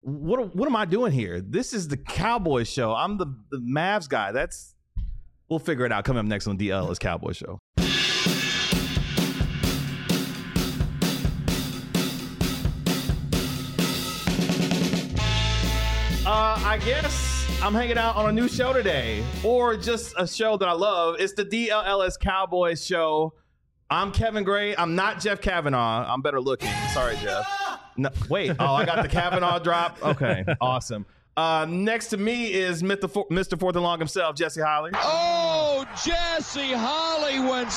what am I doing here? This is the Cowboys show. I'm the Mavs guy. We'll figure it out. Coming up next on DL's Cowboys show. I guess I'm hanging out on a new show today, or just a show that I love. It's the DLS Cowboys show. I'm Kevin Gray. I'm not Jeff Kavanaugh. I'm better looking. Sorry, Jeff. No, wait. Oh, I got the Kavanaugh drop. Okay, awesome. Next to me is Mr. Fourth and Long himself, Jesse Holly. Oh, Jesse Holly went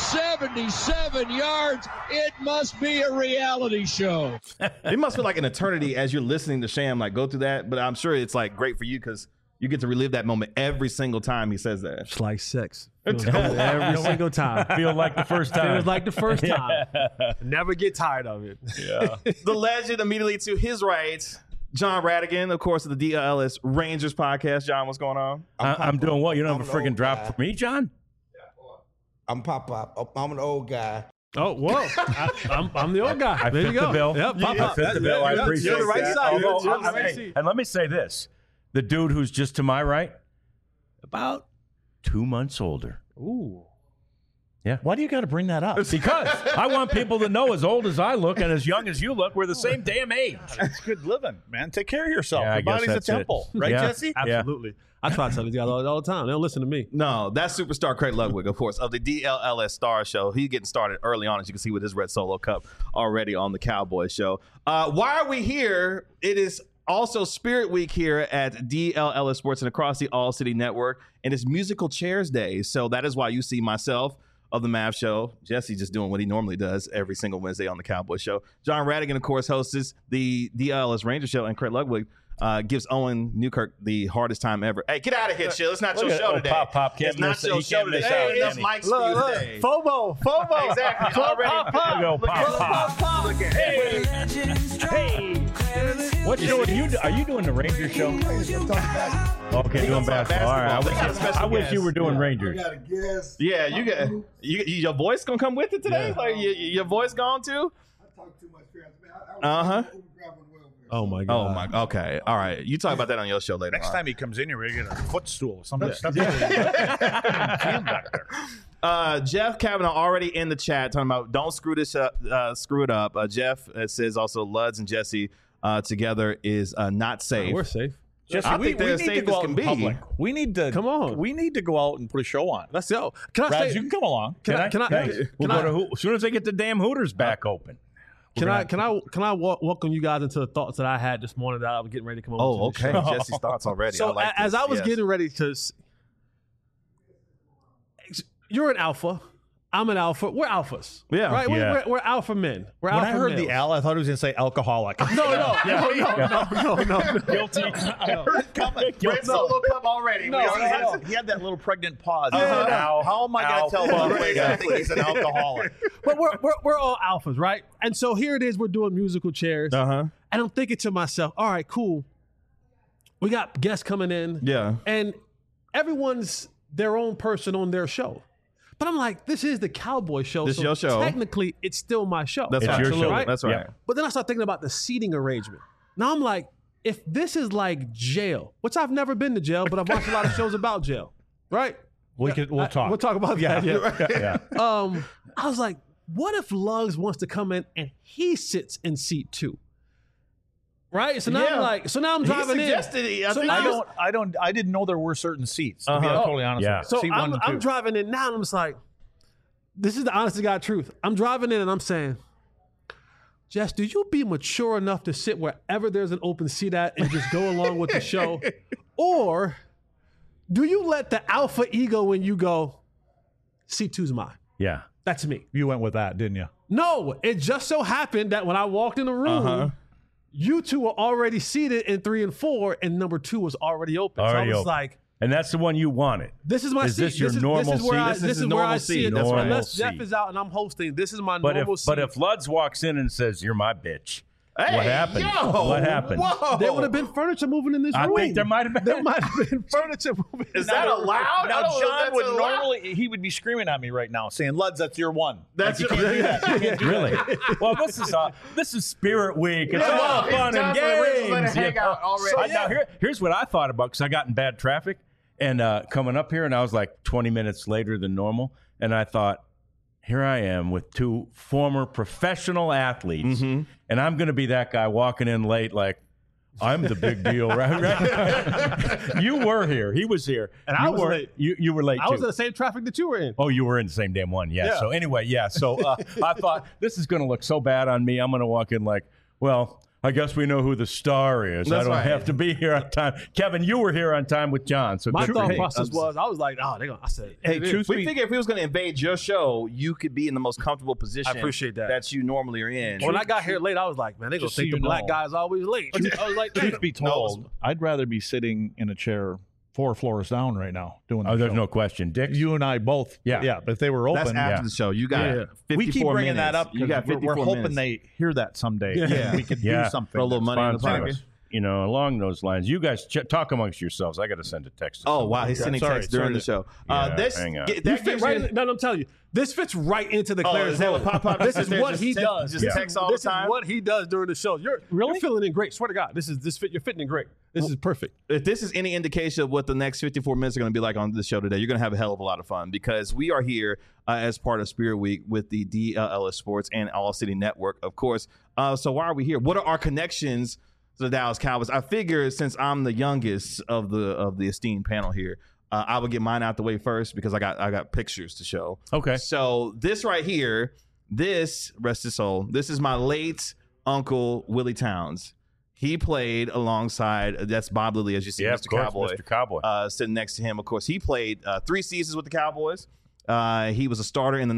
77 yards. It must be a reality show. It must feel like an eternity as you're listening to Sham like go through that, but I'm sure it's like great for you because you get to relive that moment every single time he says that. It's like sex. Every single time. Feel like the first time. Feels like the first time. Never get tired of it. Yeah. The legend immediately to his right, John Radigan, of course, of the DLS Rangers podcast. John, what's going on? I'm doing what? You don't have a freaking drop for me, John? I'm Pop. I'm an old guy. Oh, whoa. I'm the old guy. I There fit you go. the bill. Yep, I fit the bill. I appreciate You're the right that. side. Although, You're the right seat. and let me say this. The dude who's just to my right, about 2 months older. Ooh. Yeah. Why do you got to bring that up? Because I want people to know as old as I look and as young as you look, we're the same damn age. It's good living, man. Take care of yourself. Yeah, I Your guess body's a that's it. temple. Right, Yeah. Jesse? Absolutely. I try to tell these guys all the time. They don't listen to me. No, that's superstar Craig Ludwig, of course, of the DLLS Star Show. He's getting started early on, as you can see with his red solo cup already on the Cowboys show. Why are we here? It is also Spirit Week here at DLLS Sports and across the All City Network, and it's Musical Chairs Day. So that is why you see myself of the Mav Show, Jesse just doing what he normally does every single Wednesday on the Cowboys show. John Radigan, of course, hosts the DLS Ranger show, and Craig Ludwig gives Owen Newkirk the hardest time ever. Hey, get out of here, chill. It's not your show today. Pop It's not your show today. Hey, It's Mike's for you today. FOMO. Exactly. Already. Pop. Look at Hey. What show are you doing? Are you doing the Ranger show? Okay, doing basketball. All right. I wish you were doing Rangers. I got a guess. Yeah, you got your voice gonna come with it today. Yeah. Like your voice gone too. I talk too much trash. Uh-huh. Oh, my Oh God. my. Okay. All right. You talk about that on your show later. Next on. time he comes in, you're going to get a footstool or something. Jeff Kavanaugh already in the chat talking about don't screw this up, screw it up. Jeff says also Luds and Jesse together is not safe. We're safe. Jesse, I we think they're need as to safe go as out can in be. public. We need to Come on. We need to go out and put a show on. Let's go. Can I Raz, say? you can come along. Can I? Thanks. We'll Can I- go to as soon as they get the damn Hooters back open. Can I welcome you guys into the thoughts that I had this morning that I was getting ready to come over? Oh, to the okay. show? Jesse's thoughts already. So I like as this. I was Yes. getting ready to, you're an alpha. I'm an alpha. We're alphas. Yeah. Right. Yeah. We're alpha men. We're When alpha I heard males. the Al, I thought he was going to say alcoholic. No. Guilty. Red solo cup already. No, We already he had that little pregnant pause. Uh-huh. How am I going to tell Alpha. Ludwig I think he's an alcoholic? But we're all alphas, right? And so here it is. We're doing musical chairs, Uh-huh. and I'm thinking to myself, all right, cool. We got guests coming in, Yeah. and everyone's their own person on their show. But I'm like, this is the Cowboy show. This so your show. Technically, it's still my show. That's It's right. your show. Right? That's right. Yeah. But then I start thinking about the seating arrangement. Now I'm like, if this is like jail, which I've never been to jail, but I've watched a lot of shows about jail, right? We'll talk. We'll talk about that. Yeah. Yeah. I was like, what if Lugs wants to come in and he sits in seat 2? Right? So now Yeah. I'm driving he in. suggested it. I So think now- I didn't know there were certain seats. To be Uh-huh. totally honest Yeah. with you. So Seat 1 to 2. I'm driving in now and I'm just like, this is the honest to God truth. I'm driving in and I'm saying, Jess, do you be mature enough to sit wherever there's an open seat at and just go along with the show? Or do you let the alpha ego when you go, seat 2's mine? Yeah. That's me. You went with that, didn't you? No, it just so happened that when I walked in the room, you two were already seated in 3 and 4, and number 2 was already open. Already so I was open. like, And that's the one you wanted. this is my Is seat. this your normal this is where seat? I, This this is is the where I normal see seat. it. Normal Unless Jeff seat. is out and I'm hosting, this is my But normal if seat. but if Luds walks in and says, "You're my bitch," Hey, What happened? yo, What happened? Whoa. There would have been furniture moving in this I room. think there might have been. There might have been furniture moving. Is that allowed? Now, I don't know if John that's would allowed. normally, he would be screaming at me right now saying, Luds, that's your one. That's you can't do that. You can't do Really? Well, this is Spirit Week. It's Yeah, all it's fun and definitely- we're just letting it games. hang out already. Now, here's what I thought about, because I got in bad traffic and coming up here, and I was like 20 minutes later than normal, and I thought, here I am with two former professional athletes, and I'm going to be that guy walking in late like, I'm the big deal, right? You were here. He was here. And I was late. You were late, I too. was in the same traffic that you were in. Oh, you were in the same damn one. Yeah. Yeah. So anyway, yeah. So I thought this is going to look so bad on me. I'm going to walk in like, well, I guess we know who the star is. That's I don't right. have to be here on time. Kevin, you were here on time with John. So My good thought for you. process was, I was like, oh, they're going to, I said, Hey, truth We be figure if we was going to invade your show, you could be in the most comfortable position. I appreciate that. you normally are in. when I got here late, I was like, man, they're going Just to think so the you black know. guy's always late. I was like, truth be told, I'd rather be sitting in a chair 4 floors down right now doing the Oh, there's show. no question. Dick, You and I both. Yeah. But if they were That's open, after the show. You got Yeah. 54 we keep bringing minutes. that up. You got 54 we're hoping minutes. they hear that someday. Yeah. We can Yeah. do something. Throw a little money in the sponsor pocket. us. You know, along those lines, you guys talk amongst yourselves. I got to send a text. To Oh, somebody. wow. He's sending Sorry, texts during sorry. the show. Yeah, This hang on. You that fit gives right you... in, no, I'm telling you, this fits right into the Oh, Clarence is that what Hill. Pop This is what he text- does. Just text all This the time? is what he does during the show. You're feeling in great. Swear to God, you're fitting in great. This is perfect. If this is any indication of what the next 54 minutes are going to be like on this show today, you're going to have a hell of a lot of fun because we are here as part of Spirit Week with the DLLS Sports and All City Network, of course. So why are we here? What are our connections to the Dallas Cowboys? I figure since I'm the youngest of the esteemed panel here, I would get mine out the way first because I got pictures to show. Okay. So this right here, rest his soul, this is my late uncle Willie Towns. He played alongside, that's Bob Lilly, as you see, Yeah, Mr. of course, Cowboy. Mr. Cowboy. Sitting next to him, of course. He played 3 seasons with the Cowboys. He was a starter in the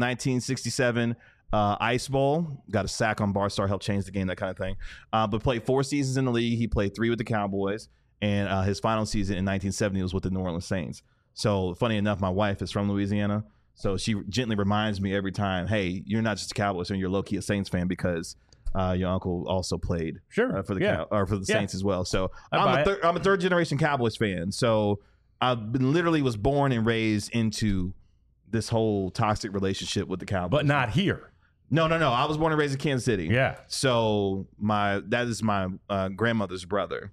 1967 Ice Bowl. Got a sack on Barstar, helped change the game, that kind of thing. But played 4 seasons in the league. He played 3 with the Cowboys. And his final season in 1970 was with the New Orleans Saints. So funny enough, my wife is from Louisiana. So she gently reminds me every time, hey, you're not just a Cowboys fan, you're low-key a Saints fan because your uncle also played Sure. for the Yeah. for the Yeah. Saints as well. So I buy it. I'm a third generation Cowboys fan. So literally was born and raised into this whole toxic relationship with the Cowboys. But not here. No. I was born and raised in Kansas City. Yeah. So that is my grandmother's brother.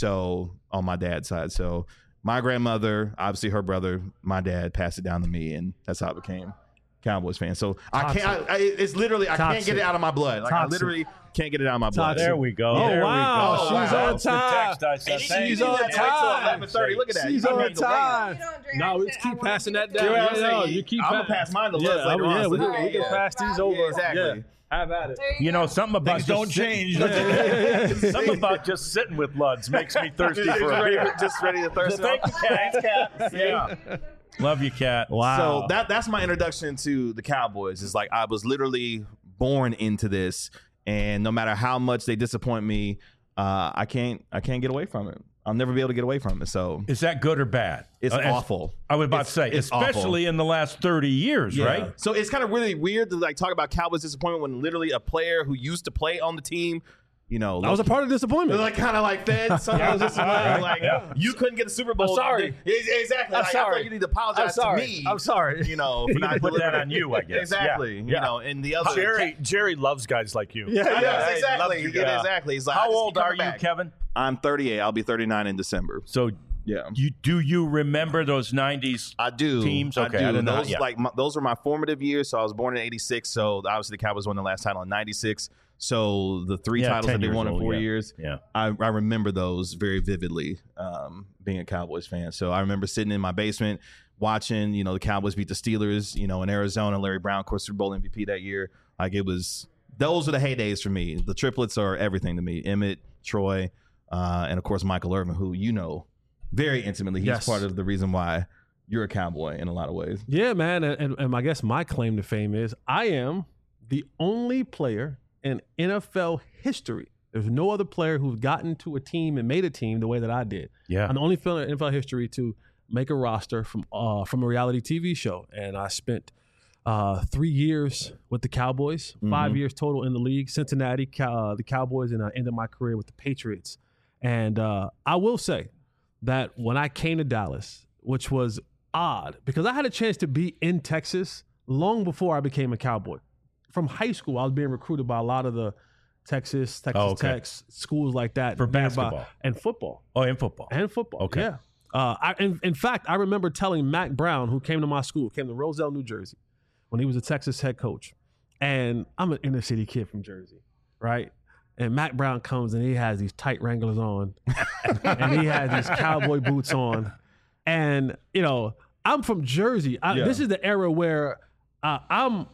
So on my dad's side. So my grandmother, obviously her brother, my dad passed it down to me, and that's how I became Cowboys fan. So it's literally I can't get it out of my blood. Like I Toxic. literally can't get it out of my blood. There we go. Oh, There wow. we go. She's Wow. on That's the time. text I sent. She's Thank She's you. on on time. 11:30. Look at that. She's You don't on need to wait. time. You don't drink No, it. let's keep I passing want that to down. You know what I'm Yeah, saying? you keep I'm pa- gonna pass mine to Lutz Yeah, later on. yeah, So we do can it. pass these Yeah, over. exactly. Yeah. Have at it. There You know, go. something about Things don't just change. something about just sitting with Luds makes me thirsty for a beer. Just ready to thirst it Thank out. you, Cat. Yeah. Love you, Cat. So that's my introduction to the Cowboys. Is like I was literally born into this, and no matter how much they disappoint me, I can't get away from it. I'll never be able to get away from it. So Is that good or bad? it's As- awful. I was about It's- to say, it's especially in the last 30 years, right? So it's kind of really weird to like talk about Cowboys disappointment when literally a player who used to play on the team, you know, That was a part of disappointment. like kind of like fed. Sometimes just like you couldn't get a Super Bowl. I'm sorry. Exactly. I'm Like, I sorry. feel like you need to apologize to me. I'm sorry. You know, for You not can put that delivering. on you, I guess. Exactly. Yeah. You know, and the other Jerry loves guys like you. Yeah. Yes, exactly. you Yeah, guys. exactly. He's like, I How just old keep are coming you, back. Kevin? I'm 38. I'll be 39 in December. So Yeah. do you remember those 90s? I do. Teams? I Okay, do. I didn't know. Those Yeah. those were my formative years. So I was born in '86. So obviously the Cowboys won the last title in '96. So the 3 Yeah, titles 10 that they years won in old, 4 yeah. years. Yeah. I remember those very vividly. Being a Cowboys fan, so I remember sitting in my basement watching, you know, the Cowboys beat the Steelers, you know, in Arizona. Larry Brown, of course, Super Bowl MVP that year. Like those are the heydays for me. The triplets are everything to me. Emmett, Troy, and of course Michael Irvin, who you know very intimately. He's Yes. part of the reason why you're a Cowboy in a lot of ways. Yeah, man. And I guess my claim to fame is I am the only player in NFL history. There's no other player who's gotten to a team and made a team the way that I did. Yeah. I'm the only player in NFL history to make a roster from a reality TV show. And I spent 3 years with the Cowboys, 5 years total in the league. Cincinnati, the Cowboys, and I ended my career with the Patriots. And I will say that when I came to Dallas, which was odd because I had a chance to be in Texas long before I became a Cowboy. From high school, I was being recruited by a lot of the Texas Tech schools like that. For nearby. basketball. And football. Oh, in football. And football. Okay. Yeah. In fact, I remember telling Mac Brown, who came to my school, came to Roselle, New Jersey, when he was a Texas head coach. And I'm an inner city kid from Jersey, right? And Mac Brown comes and he has these tight Wranglers on and he has these cowboy boots on. And, I'm from Jersey. This is the era where I'm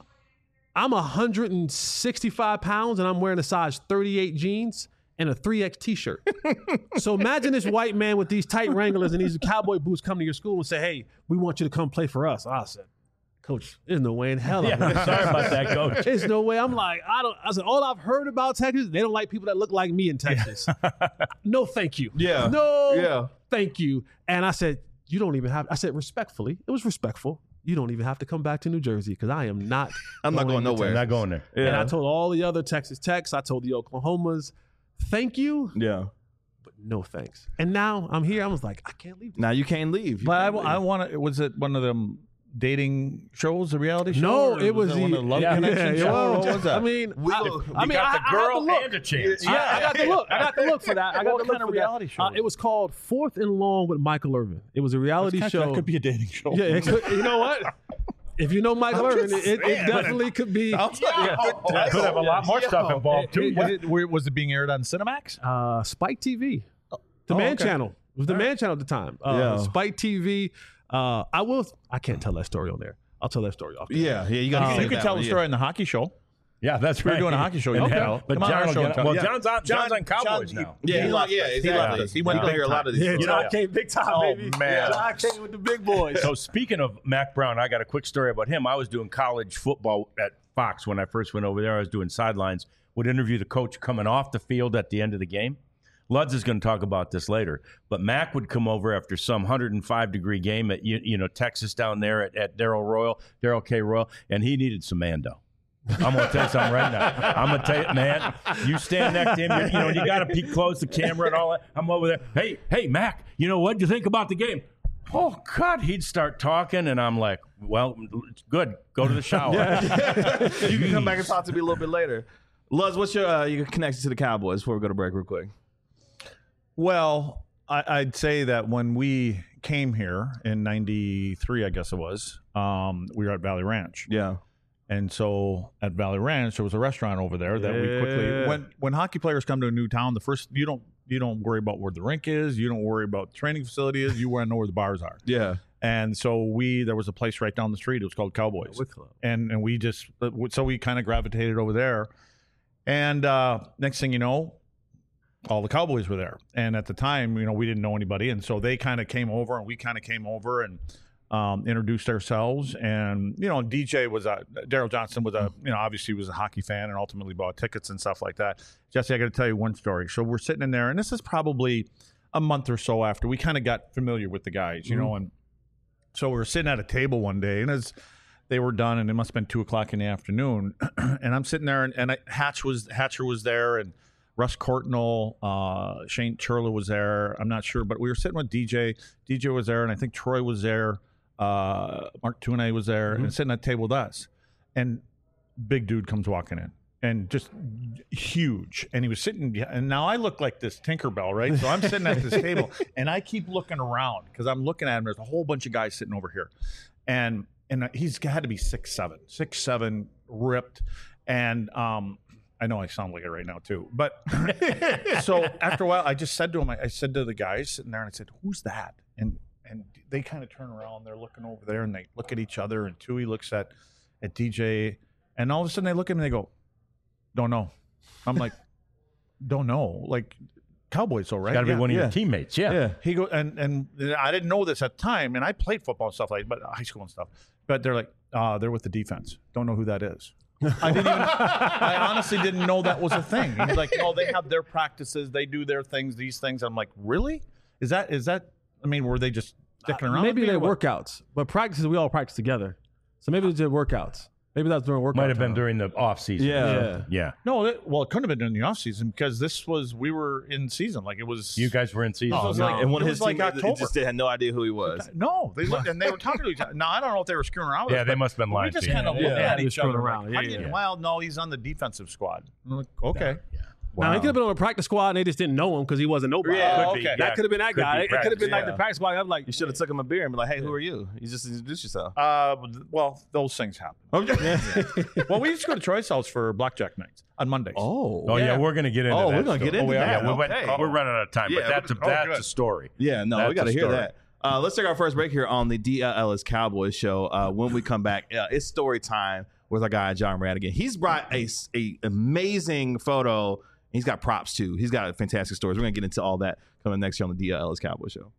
165 pounds and I'm wearing a size 38 jeans and a 3X t-shirt. So imagine this white man with these tight Wranglers and these cowboy boots come to your school and say, hey, we want you to come play for us. I said, Coach, there's no way in hell. Sorry about that, Coach. There's no way. I'm like, I said, all I've heard about Texas, they don't like people that look like me in Texas. No, thank you. Yeah. No, thank you. And I said, you don't even have, I said, respectfully, it was respectful. You don't even have to come back to New Jersey because I am not. I'm not going nowhere. I'm not going there. And I told all the other Texas Techs, I told the Oklahomas, thank you, Yeah. but no thanks. And now I'm here. I was like, I can't leave. Now you can't leave. But I want to. Was it one of them dating shows, the reality show? No, or it was one of the Love Connection show? well, What was that? I mean, We I got got the girl look. and a chance. I got the look. I got the look for that. I got What the look kind of for reality that. show was It was called Fourth and Long with Michael Irvin. It was a reality show. That could be a dating show. Yeah, it could, you know what? If you know Michael Irvin, it definitely could be. Could have a lot more stuff involved too. Was it being aired on Cinemax? Spike TV, the Man Channel. It was the Man Channel at the time. Spike TV. I can't tell that story on there. I'll tell that story off. Yeah. You got to You could tell the story in the hockey show. Yeah, that's We right. were doing a hockey show. And You hell, know. but Come on, John our will show get- and tell. well, Yeah. John's on Cowboys now. Exactly. He went You big hear a lot of these. Yeah, stories. John came big time, Oh, baby. man. John came with the big boys. So speaking of Mac Brown, I got a quick story about him. I was doing college football at Fox when I first went over there. I was doing sidelines, would interview the coach coming off the field at the end of the game. Luds is going to talk about this later, but Mac would come over after some 105-degree game at Texas down there at Darrell K. Royal, and he needed some Mando. I'm going to tell you something right now. I'm going to tell you, man, you stand next to him, you got to peek close the camera and all that. I'm over there. Hey, Mac, what'd you think about the game? Oh, God. He'd start talking, and I'm like, well, good. Go to the shower. You can come back and talk to me a little bit later. Luz, what's your connection to the Cowboys before we go to break real quick? Well, I'd say that when we came here in '93, I guess it was, we were at Valley Ranch. Yeah. And so at Valley Ranch, there was a restaurant over there that we quickly when hockey players come to a new town, the first you don't worry about where the rink is, you don't worry about the training facility is, you want to know where the bars are. Yeah. And so there was a place right down the street. It was called Cowboys, and we kind of gravitated over there. And next thing you know, all the Cowboys were there. And at the time, we didn't know anybody, and so they kind of came over, and we kind of came over and introduced ourselves. And DJ was Daryl Johnson was obviously was a hockey fan and ultimately bought tickets and stuff like that. Jesse, I got to tell you one story. So we're sitting in there, and this is probably a month or so after we kind of got familiar with the guys, and so we were sitting at a table one day, and as they were done, and it must have been 2:00 in the afternoon, and I'm sitting there, and Hatcher was there, and Russ Courtnall, Shane Churla was there. I'm not sure, but we were sitting with DJ. DJ was there, and I think Troy was there. Mark Tooney was there, and sitting at the table with us. And big dude comes walking in, and just huge. And he was sitting, and now I look like this Tinkerbell, right? So I'm sitting at this table, and I keep looking around because I'm looking at him. There's a whole bunch of guys sitting over here, and he's had to be 6'7", ripped, and I know I sound like it right now too, but so after a while, I just said to him, I said to the guys sitting there, and I said, "Who's that?" And they kind of turn around, they're looking over there, and they look at each other, and Tui looks at DJ, and all of a sudden they look at me and they go, "Don't know." I'm like, "Don't know." Like, Cowboys, though, right? Got to be one of your teammates. Yeah. He goes, and I didn't know this at the time, and I played football and stuff like, but high school and stuff. But they're like, they're with the defense. Don't know who that is. I honestly didn't know that was a thing. He's like, "Oh, they have their practices, they do their things, these things." I'm like, "Really? Is that? I mean, were they just sticking around?" Maybe with me they're or what? workouts, but practices we all practice together. So maybe they did workouts. Maybe that's during workout. Might have been time. during the off season. Yeah. No, it couldn't have been during the off season because we were in season. Like it was. You guys were in season. No, it was No. like And one it of was his like teammates October. just had no idea who he was. No, they looked and they were talking to each other. Now I don't know if they were screwing around with Yeah, us, they but must have been lying We just to you. kind of Yeah. looked Yeah, at they were each screwing other. around. Like, Yeah, how do you- yeah. Well, no, he's on the defensive squad. I'm like, okay. Now he could have been on a practice squad and they just didn't know him because he wasn't nobody. Yeah, could be. That Yeah. could have been that Could guy. be It could have been like practice, the practice squad. I'm like, You should have took him a beer and be like, "Hey, who are you?" You just introduce yourself. Well, those things happen. Okay. Well, we used to go to Troy's house for blackjack nights on Mondays. Oh yeah, we're gonna get into that. we're gonna get story. into that. Yeah, we're running out of time, Yeah, but that's good. a story. Yeah, no, That's we got to a hear story. that. Let's take our first break here on the DLS Cowboys show. When we come back, it's story time with our guy John Radigan. He's brought a amazing photo. He's got props too. He's got fantastic stories. We're gonna get into all that coming next year on the DLS Cowboys show.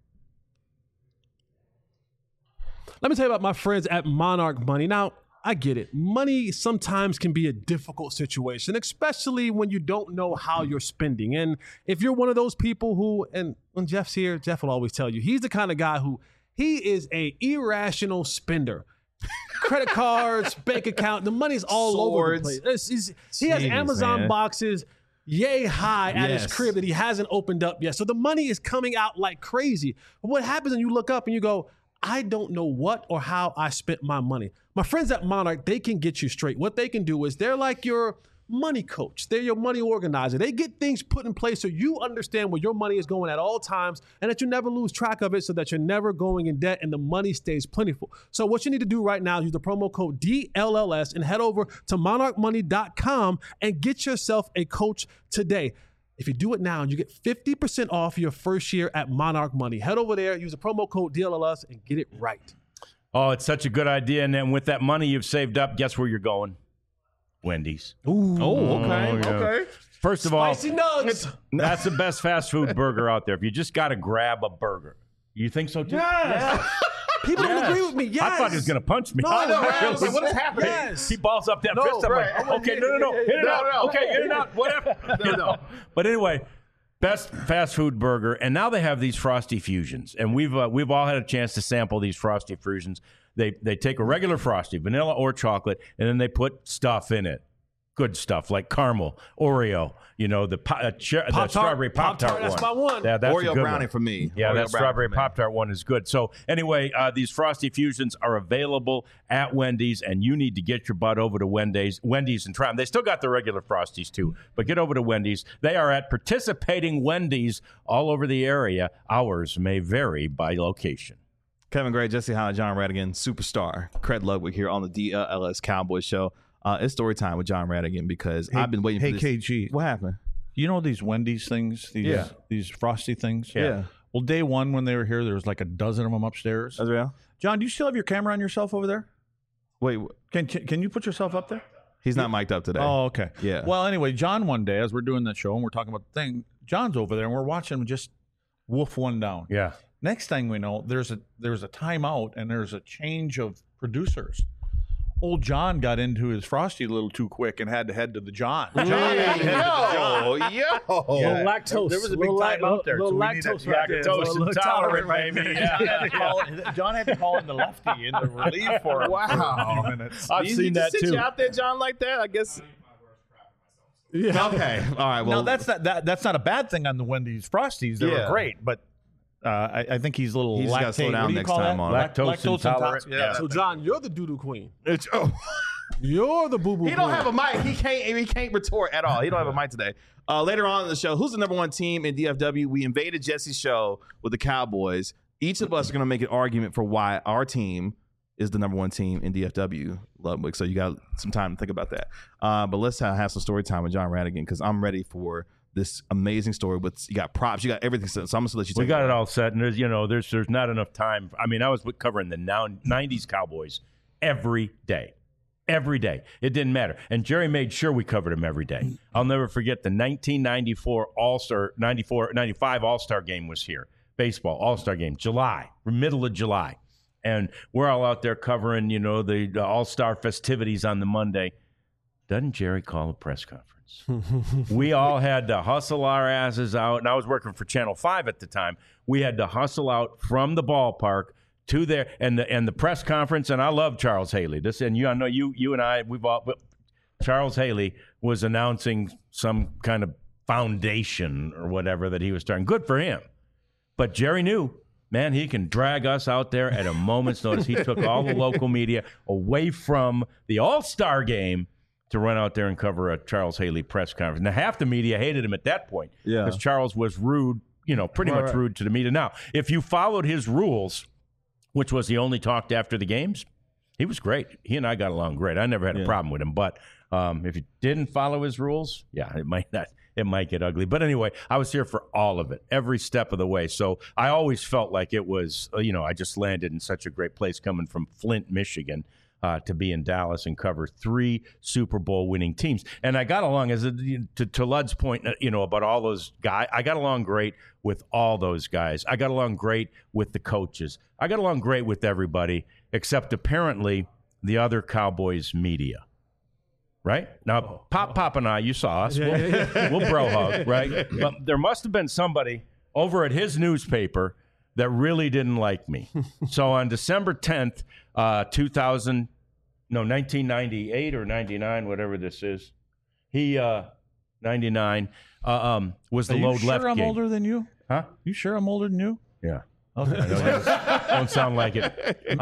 let me tell you about my friends at Monarch Money. Now, I get it. Money sometimes can be a difficult situation, especially when you don't know how you're spending. And if you're one of those people who, and when Jeff's here, Jeff will always tell you, he's the kind of guy who he is a irrational spender. Credit cards, bank account, the money's all over the Swords. place. He has Jeez, Amazon man. boxes yay high at his Yes. crib that he hasn't opened up yet. So the money is coming out like crazy. But what happens when you look up and you go, I don't know what or how I spent my money. My friends at Monarch, they can get you straight. What they can do is they're like your money coach. They're your money organizer. They get things put in place so you understand where your money is going at all times and that you never lose track of it so that you're never going in debt and the money stays plentiful. So what you need to do right now is use the promo code DLLS and head over to monarchmoney.com and get yourself a coach today. If you do it now, you get 50% off your first year at Monarch Money. Head over there, use the promo code DLLS and get it right. Oh, it's such a good idea. And then with that money you've saved up, guess where you're going? Wendy's. Oh, okay, yeah. okay. First of all, Spicy nugs. that's the best fast food burger out there. If you just got to grab a burger. You think so too? Yes. People don't agree with me. Yes. I thought he was going to punch me. No, I know, right? I was like, what is happening? Yes. He balls up that No, fist. I'm right. like, okay, no. Hit it out. no. Okay, hit it out. Whatever. No. But anyway, best fast food burger. And now they have these Frosty Fusions. And we've all had a chance to sample these Frosty Fusions. They take a regular Frosty, vanilla or chocolate, and then they put stuff in it. Good stuff like caramel, Oreo, the strawberry Pop-Tart one. That's my one. Yeah, that's a Oreo good brownie one. for me. Yeah, Oreo that brownie strawberry for me. Pop-Tart one is good. So anyway, these Frosty Fusions are available at Wendy's, and you need to get your butt over to Wendy's and try them. They still got the regular Frosties too, but get over to Wendy's. They are at participating Wendy's all over the area. Hours may vary by location. Kevin Gray, Jesse Holland, John Radigan, superstar. Craig Ludwig here on the DLS Cowboys show. It's story time with John Radigan because I've been waiting for this. Hey, KG. What happened? You know these Wendy's things? These Frosty things? Yeah. Well, day one when they were here, there was like a dozen of them upstairs. That's real? John, do you still have your camera on yourself over there? Wait, Can you put yourself up there? he's not mic'd up today. Oh, okay. Yeah. Well, anyway, John one day, as we're doing that show and we're talking about the thing, John's over there and we're watching him just wolf one down. Yeah. Next thing we know, there's a timeout and there's a change of producers. Old John got into his Frosty a little too quick and had to head to the John. John had to head to the John. Yo. Little lactose. There was a big Little time out there. Little so we needed- lactose right there. Lactose Little intolerant, right baby. there. John had to call in the lefty in the relief for him for a few minutes. I've seen that sit too. you out there, John, like that? I guess. Yeah. Okay. All right. Well, Now that's not a bad thing on the Wendy's Frosties. They Yeah. were great, but I think he's a little He's just gotta lactate. slow down what do you next call time that? on it. Lactose intolerant. Yeah. So, John, you're the doo-doo queen. it's, You're the boo-boo he don't queen. have a mic. He can't retort at all. He don't have a mic today. Later on in the show, who's the number one team in DFW? We invaded Jesse's show with the Cowboys. Each of us are going to make an argument for why our team is the number one team in DFW, Ludwig. So you got some time to think about that. But let's have some story time with John Radigan because I'm ready for this amazing story. With you got props, you got everything. So I'm going to let you take We got it it all set, and there's not enough time. I mean, I was covering the 90s Cowboys every day. Every day. It didn't matter. And Jerry made sure we covered him every day. I'll never forget the 1994 All-Star, 95 All-Star game was here. Baseball, All-Star game, middle of July. And we're all out there covering, the All-Star festivities on the Monday. Doesn't Jerry call a press conference? We all had to hustle our asses out. And I was working for Channel 5 at the time. We had to hustle out from the ballpark to there and the press conference. And I love Charles Haley. I know you and I, Charles Haley was announcing some kind of foundation or whatever that he was starting. Good for him. But Jerry knew, man, he can drag us out there at a moment's notice. He took all the local media away from the All-Star game to run out there and cover a Charles Haley press conference. Now, half the media hated him at that point because Charles was rude, pretty much rude to the media. Now, if you followed his rules, which was he only talked after the games, he was great. He and I got along great. I never had a problem with him. But if you didn't follow his rules, it might get ugly. But anyway, I was here for all of it, every step of the way. So I always felt like it was, I just landed in such a great place coming from Flint, Michigan, to be in Dallas and cover 3 Super Bowl winning teams. And I got along, to Lud's point, about all those guys, I got along great with all those guys. I got along great with the coaches. I got along great with everybody, except apparently the other Cowboys media. Right? Now, Pop and I, you saw us. We'll bro hug, right? But there must have been somebody over at his newspaper that really didn't like me. So on December 10th, 1998 or 99, whatever this is, 99, was the load left game. I'm older than you? Huh? You sure I'm older than you? Yeah. Okay. Don't sound like it.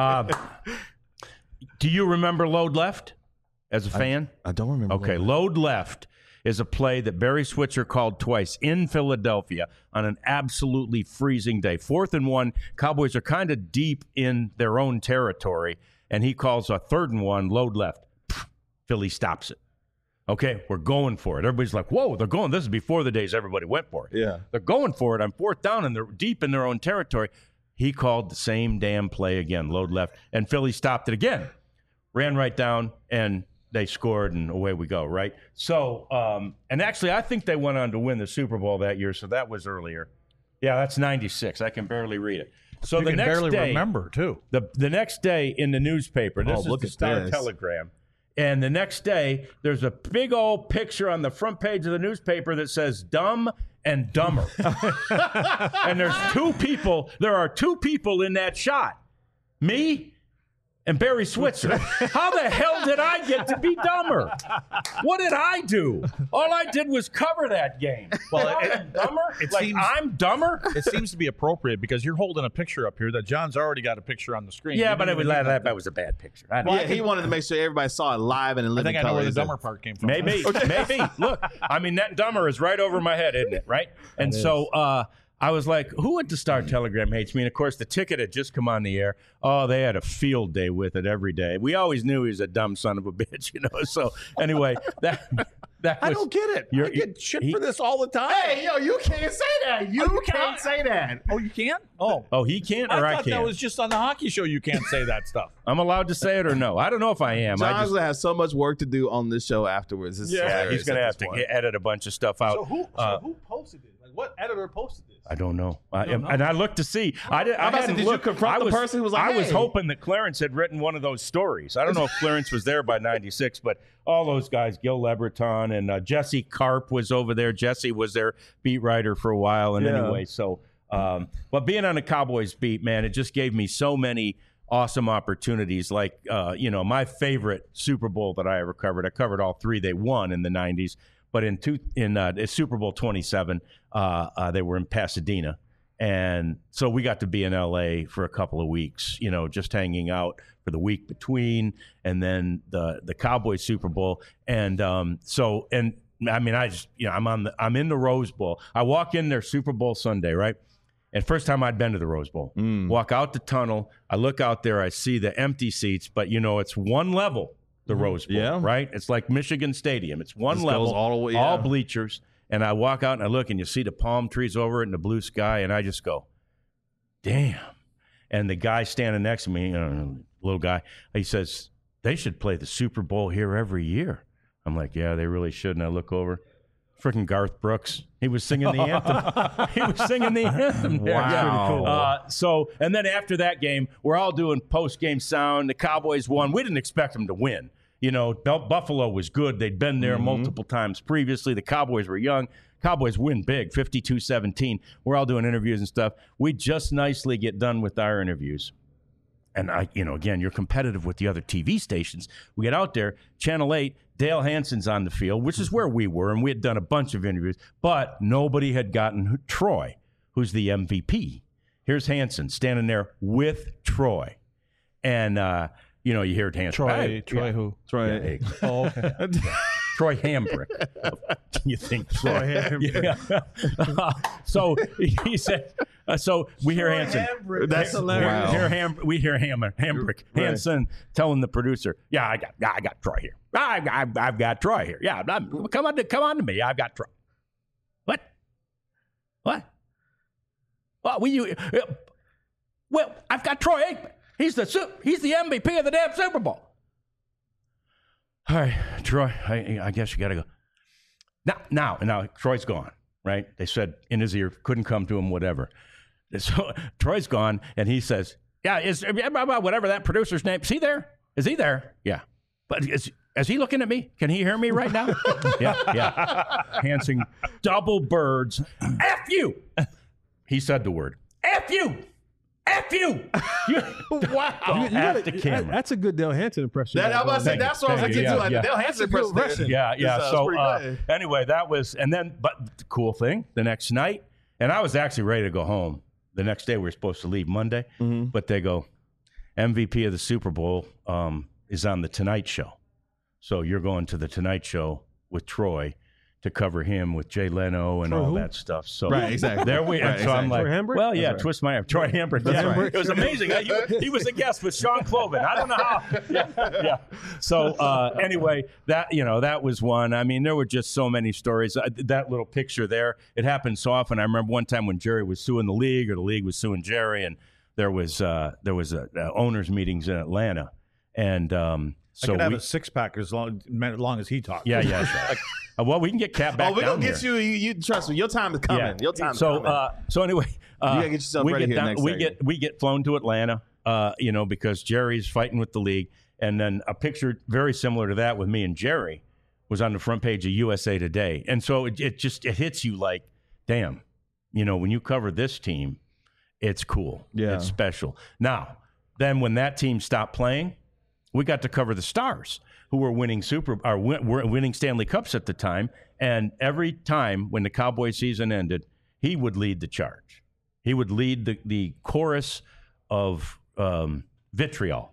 Do you remember load left? As a fan? I don't remember. Okay, load left is a play that Barry Switzer called twice in Philadelphia on an absolutely freezing day. 4th and 1, Cowboys are kind of deep in their own territory, and he calls a 3rd and 1, load left. Philly stops it. Okay, we're going for it. Everybody's like, whoa, they're going. This is before the days everybody went for it. Yeah. They're going for it on 4th down, and they're deep in their own territory. He called the same damn play again, load left, and Philly stopped it again. Ran right down, and they scored, and away we go, right? So, and actually, I think they went on to win the Super Bowl that year, so that was earlier. Yeah, that's 96. I can barely read it. So the next barely day, remember, too. The next day in the newspaper, this is look the at Star this. Telegram, and the next day, there's a big old picture on the front page of the newspaper that says Dumb and Dumber. And there are two people in that shot. Me and Barry Switzer. How the hell did I get to be dumber? What did I do? All I did was cover that game. Well, I'm dumber? seems- I'm dumber? It seems to be appropriate because you're holding a picture up here that John's already got a picture on the screen. Yeah, You but didn't it even need that. that was a bad picture. I don't know. Yeah, he wanted to make sure everybody saw it live and in I living think I know color. where the dumber part came from. Maybe. Look, I mean, that dumber is right over my head, isn't it? Right? And so I was like, who at the Star Telegram hates me? And, of course, the ticket had just come on the air. Oh, they had a field day with it every day. We always knew he was a dumb son of a bitch, So, anyway, that was... I don't get it. I get shit for this all the time. Hey, yo, you can't say that. You can't say that. Oh, you can't? Oh. Oh, he can't or I thought can't? that was just on the hockey show you can't say that stuff. I'm allowed to say it or no? I don't know if I am. John's gonna have so much work to do on this show afterwards. It's he's hilarious going to at have this to point. edit a bunch of stuff out. So who posted this? Like, what editor posted this? I don't know. And I looked to see. I hadn't did looked. you confront the person who was like, I was hey? hoping that Clarence had written one of those stories. I don't know if Clarence was there by 96, but all those guys, Gil Lebreton and Jesse Karp was over there. Jesse was their beat writer for a while. And anyway, so, but being on the Cowboys beat, man, it just gave me so many awesome opportunities. Like, my favorite Super Bowl that I ever covered. I covered all 3 they won in the 90s. But in Super Bowl 27, they were in Pasadena. And so we got to be in L.A. for a couple of weeks, just hanging out for the week between, and then the Cowboys Super Bowl. And I'm in the Rose Bowl. I walk in there Super Bowl Sunday, right? And first time I'd been to the Rose Bowl. Walk out the tunnel. I look out there. I see the empty seats, but it's one level. The Rose Bowl, right? It's like Michigan Stadium. It's one level, all bleachers. And I walk out and I look, and you see the palm trees over it and the blue sky, and I just go, damn. And the guy standing next to me, little guy, he says, they should play the Super Bowl here every year. I'm like, yeah, they really should. And I look over, freaking Garth Brooks. He was singing the anthem. He was singing the anthem there. Wow. So, and then after that game, we're all doing post-game sound. The Cowboys won. We didn't expect them to win. Buffalo was good. They'd been there multiple times previously. The Cowboys were young. Cowboys win big, 52-17. We're all doing interviews and stuff. We just nicely get done with our interviews. and again, you're competitive with the other TV stations. We get out there, Channel 8, Dale Hansen's on the field, which is where we were, and we had done a bunch of interviews, but nobody had gotten Troy, who's the MVP. Here's Hansen standing there with Troy. And, you hear Hansen. Troy who? Troy. Oh, okay. Troy Hambrick. You think Troy Hambrick? Yeah. So he said, so we hear Hansen. That's hilarious. Wow. We hear Hambrick. Hansen telling the producer, I got Troy here. I've got Troy here. Yeah, come on to me. I've got Troy. What? Well, I've got Troy Aikman. He's the MVP of the damn Super Bowl. All right, Troy, I guess you got to go. Now, Troy's gone, right? They said in his ear, couldn't come to him, whatever. So Troy's gone, and he says, whatever that producer's name, is he there? Is he there? Yeah. But is he looking at me? Can he hear me right now? Yeah. Hansen, double birds. F you! He said the word. F you! F you! Wow. At the camera. That's a good Dale Hansen impression. That's what I was thinking too. Like the Dale Hansen impression. Yeah. So anyway, that was, but the cool thing, the next night, and I was actually ready to go home. The next day we were supposed to leave Monday, but they go, MVP of the Super Bowl is on the Tonight Show. So you're going to the Tonight Show with Troy to cover him with Jay Leno and all that stuff. So right, exactly. There we are. So I'm like, Troy Hambrick? Twist my arm. Troy Hambrick. Yeah, it was amazing. He was a guest with Sean Cloven. I don't know how. Yeah. So anyway, that was one. I mean, there were just so many stories. That little picture there, it happened so often. I remember one time when Jerry was suing the league, or the league was suing Jerry, and there was owners meetings in Atlanta, and so I could have a six-pack as long as he talks. Yeah. Well, we can get Cat back. We're down gonna get here. you. Trust me, your time is coming. Yeah. Your time is coming. So anyway, you gotta get yourself ready here next segment. We get flown to Atlanta, because Jerry's fighting with the league, and then a picture very similar to that with me and Jerry was on the front page of USA Today, and so it hits you like, damn, when you cover this team, it's cool, it's special. Now, then when that team stopped playing, we got to cover the Stars, who were winning winning Stanley Cups at the time. And every time when the Cowboy season ended, he would lead the charge. He would lead the chorus of vitriol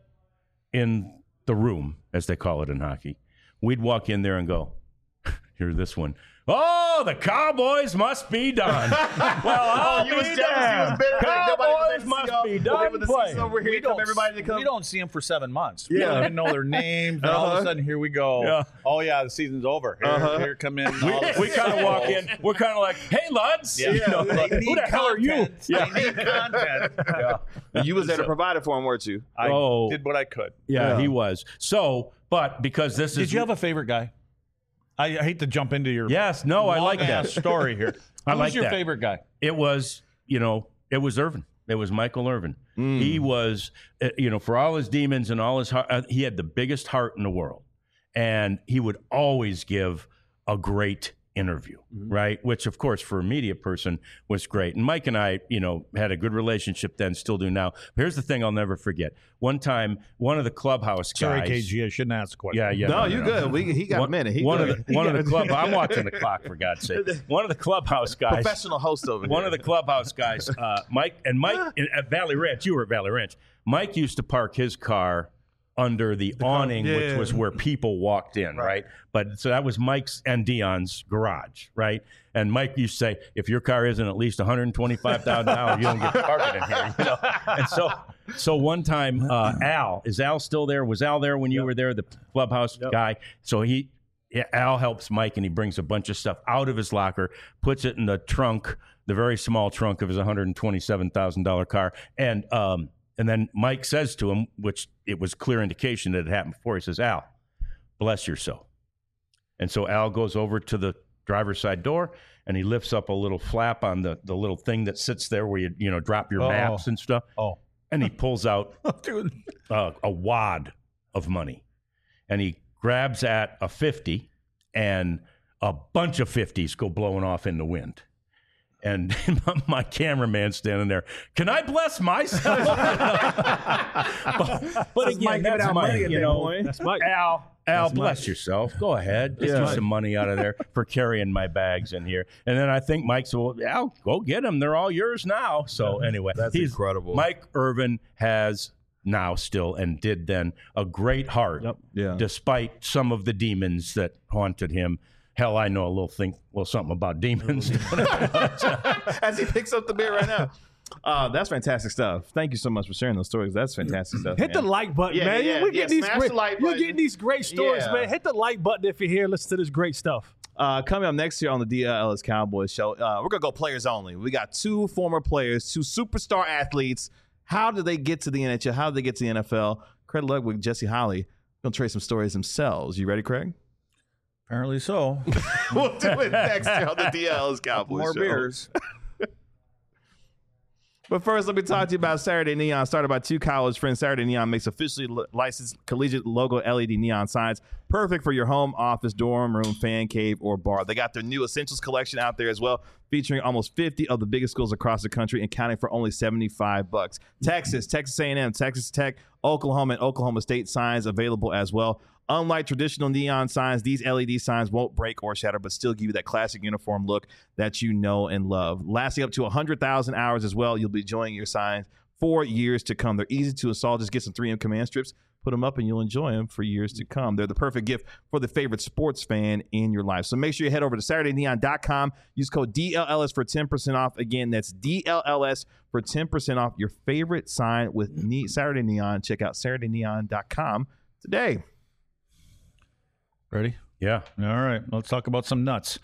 in the room, as they call it in hockey. We'd walk in there and go, hear this one. Oh, the Cowboys must be done. Well, I'll be damned. Cowboys must be done playing. We don't see them for 7 months. We don't even know their names. And all of a sudden, here we go. Yeah. Oh, yeah, the season's over. Here come in. We kind of walk in. We're kind of like, hey, lads. Yeah. Who the hell are you? Yeah. They need content. Yeah. You was there to provide it for him, weren't you? I did what I could. Yeah, he was. So, but because this is... Did you have a favorite guy? I hate to jump into your I like that story here. Who's your favorite guy? It was, it was Irvin. It was Michael Irvin. He was, for all his demons and all his heart, he had the biggest heart in the world. And he would always give a great interview, right? Which, of course, for a media person was great. And Mike and I, had a good relationship then, still do now. But here's the thing I'll never forget. One time, one of the clubhouse guys... Sorry, KG, I shouldn't ask the question. Yeah. No, you're good. He got a minute. One of the club... I'm watching the clock, for God's sake. One of the clubhouse guys... Professional host over here. One of the clubhouse guys, Mike at Valley Ranch, you were at Valley Ranch. Mike used to park his car under the awning, which was where people walked in, right? But so that was Mike's and Dion's garage, right? And Mike used to say, if your car isn't at least $125,000, you don't get parking in here, And so one time, Al, is Al still there? Was Al there when you were there, the clubhouse guy? So Al helps Mike, and he brings a bunch of stuff out of his locker, puts it in the trunk, the very small trunk of his $127,000 car, and then Mike says to him, which it was clear indication that it happened before, he says, Al, bless your soul. And so Al goes over to the driver's side door, and he lifts up a little flap on the little thing that sits there where you drop your maps and stuff. Oh. And he pulls out a wad of money. And he grabs at a 50, and a bunch of 50s go blowing off in the wind. And my cameraman standing there. Can I bless myself? but again, that's Mike. You know, That's Mike. Al, bless yourself. Go ahead. Just get some money out of there for carrying my bags in here. And then I think Mike said, well, Al, go get them. They're all yours now. So anyway, That's incredible. Mike Irvin has now still and did then a great heart, despite some of the demons that haunted him. Hell, I know a little something about demons. As he picks up the beer right now. That's fantastic stuff. Thank you so much for sharing those stories. That's fantastic stuff. Hit the like button, man. We're getting these great, you're getting these great stories, man. Hit the like button if you're here. Listen to this great stuff. Coming up next year on the DLS Cowboys show, we're going to go players only. We got 2 former players, 2 superstar athletes. How did they get to the NHL? How did they get to the NFL? Craig Ludwig, Jesse Holley, going to trade some stories themselves. You ready, Craig? Apparently so. We'll do it next year on the DLS Cowboys More show. beers. But first, let me talk to you about Saturday Neon. Started by 2 college friends, Saturday Neon makes officially licensed collegiate logo LED neon signs. Perfect for your home, office, dorm room, fan cave, or bar. They got their new Essentials collection out there as well, featuring almost 50 of the biggest schools across the country and counting for only $75. Texas A&M, Texas Tech, Oklahoma, and Oklahoma State signs available as well. Unlike traditional neon signs, these LED signs won't break or shatter, but still give you that classic uniform look that you know and love. Lasting up to 100,000 hours as well, you'll be enjoying your signs for years to come. They're easy to install. Just get some 3M command strips, put them up, and you'll enjoy them for years to come. They're the perfect gift for the favorite sports fan in your life. So make sure you head over to SaturdayNeon.com. Use code DLLS for 10% off. Again, that's DLLS for 10% off your favorite sign with Saturday Neon. Check out SaturdayNeon.com today. Ready? Yeah. All right. Let's talk about some nuts.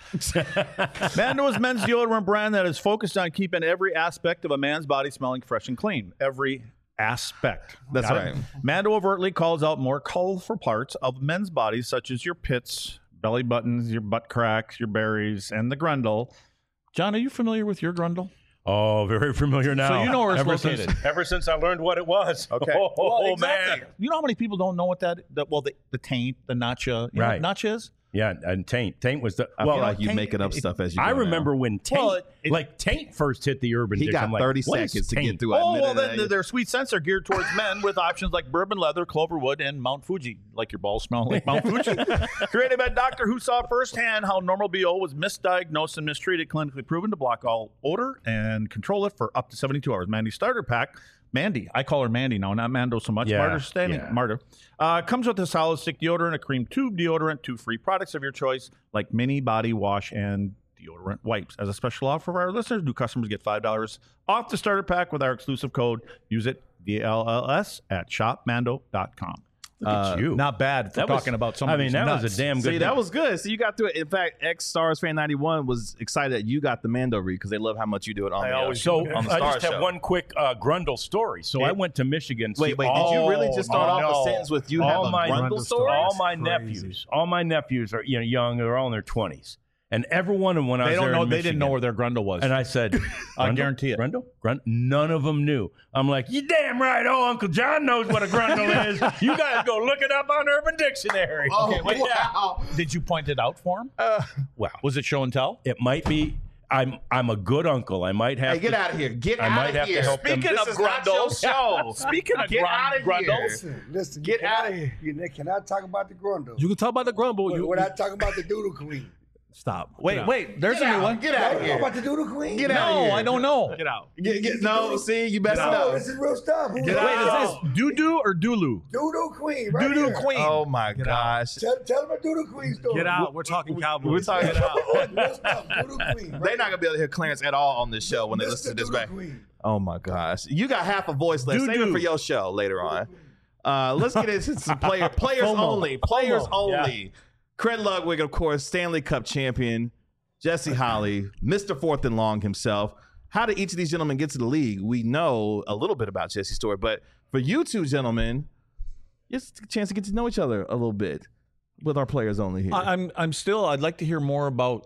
Mando is men's deodorant brand that is focused on keeping every aspect of a man's body smelling fresh and clean. Every aspect. That's Got right. it? Mando overtly calls out more colorful parts of men's bodies, such as your pits, belly buttons, your butt cracks, your berries, and the grundle. John, are you familiar with your grundle? Oh, very familiar now. So you know where it's located. Ever since I learned what it was. Okay. Oh, Well, exactly. man. You know how many people don't know what the taint, the nacha, you Right. know what nacha is? Yeah, and Taint. Taint was the I feel like Taint- you making up stuff as you go I now. remember when Taint, Well, Taint first hit the urban He dish. got I'm like, 30 what is seconds to Taint? get through. Oh, well, then their sweet scents are geared towards men with options like bourbon leather, cloverwood, and Mount Fuji. Like your balls smell like Mount Fuji. Created by a doctor who saw firsthand how normal BO was misdiagnosed and mistreated, clinically proven to block all odor and control it for up to 72 hours. Mandy Starter Pack. Mandy. I call her Mandy now, not Mando so much. Yeah, Martyr standing. yeah. Martyr. Comes with a solid stick deodorant, a cream tube deodorant, 2 free products of your choice, like mini body wash and deodorant wipes. As a special offer for our listeners, new customers get $5 off the starter pack with our exclusive code. Use it, DLLS, at shopmando.com. Look at you. Not bad for That was- talking about I somebody's mean, that nuts. was a damn good See, that thing. was good. So you got through it. In fact, Stars Fan 91 was excited that you got the Mando read because they love how much you do it on the So on the I Star just have Show. one quick Grundle story. So I went to Michigan. Wait, did you really just start off a sentence with you have a Grundle story? All my Crazy. nephews are young. They're all in their 20s, and every one of them when I They was don't there know. in They didn't know Michigan, where their grundle was. and I said, I "Grundle? guarantee it. Grundle? None of them knew. I'm like, you damn right. Oh, Uncle John knows what a grundle is. You guys go look it up on Urban Dictionary. Okay, wait, Did you point it out for him? Well, Was it show and tell? it might be. I'm a good uncle. I might have. Hey, get to, out of here. Get I out might of have to here. help them. Speaking This of is not your grundles. show. Speaking of Get out of grundles. here. Listen, Get you out cannot- of here. You cannot talk about the grundle. You can talk about the grumble. We're not talking about the doodle queen. Stop. Wait. There's Get a new out. one. Get out of Talk here. about the doodle queen. Get out of No, here. I don't know. Get out. No, see, you messed it No, up. this is real stuff. Who's Get that? out. Wait, is this doo-doo or doodoo? Doodle queen. Right Doodoo here. queen. Oh my gosh. Tell them a doodle queen story. Get out. We're talking Cowboys. We're talking Get out. Real stuff. Doodle queen. They're not gonna be able to hear Clarence at all on this show when they Mr. listen to this Doodle back. Queen. Oh my gosh, you got half a voice left. Save it Doo-doo. for your show later on. Let's get into some players only. Players only. Craig Ludwig, of course, Stanley Cup champion. Jesse Holley, Mr. Fourth and Long himself. How did each of these gentlemen get to the league? We know a little bit about Jesse's story, but for you two gentlemen, it's a chance to get to know each other a little bit with our players only here. I'm still. I'd like to hear more about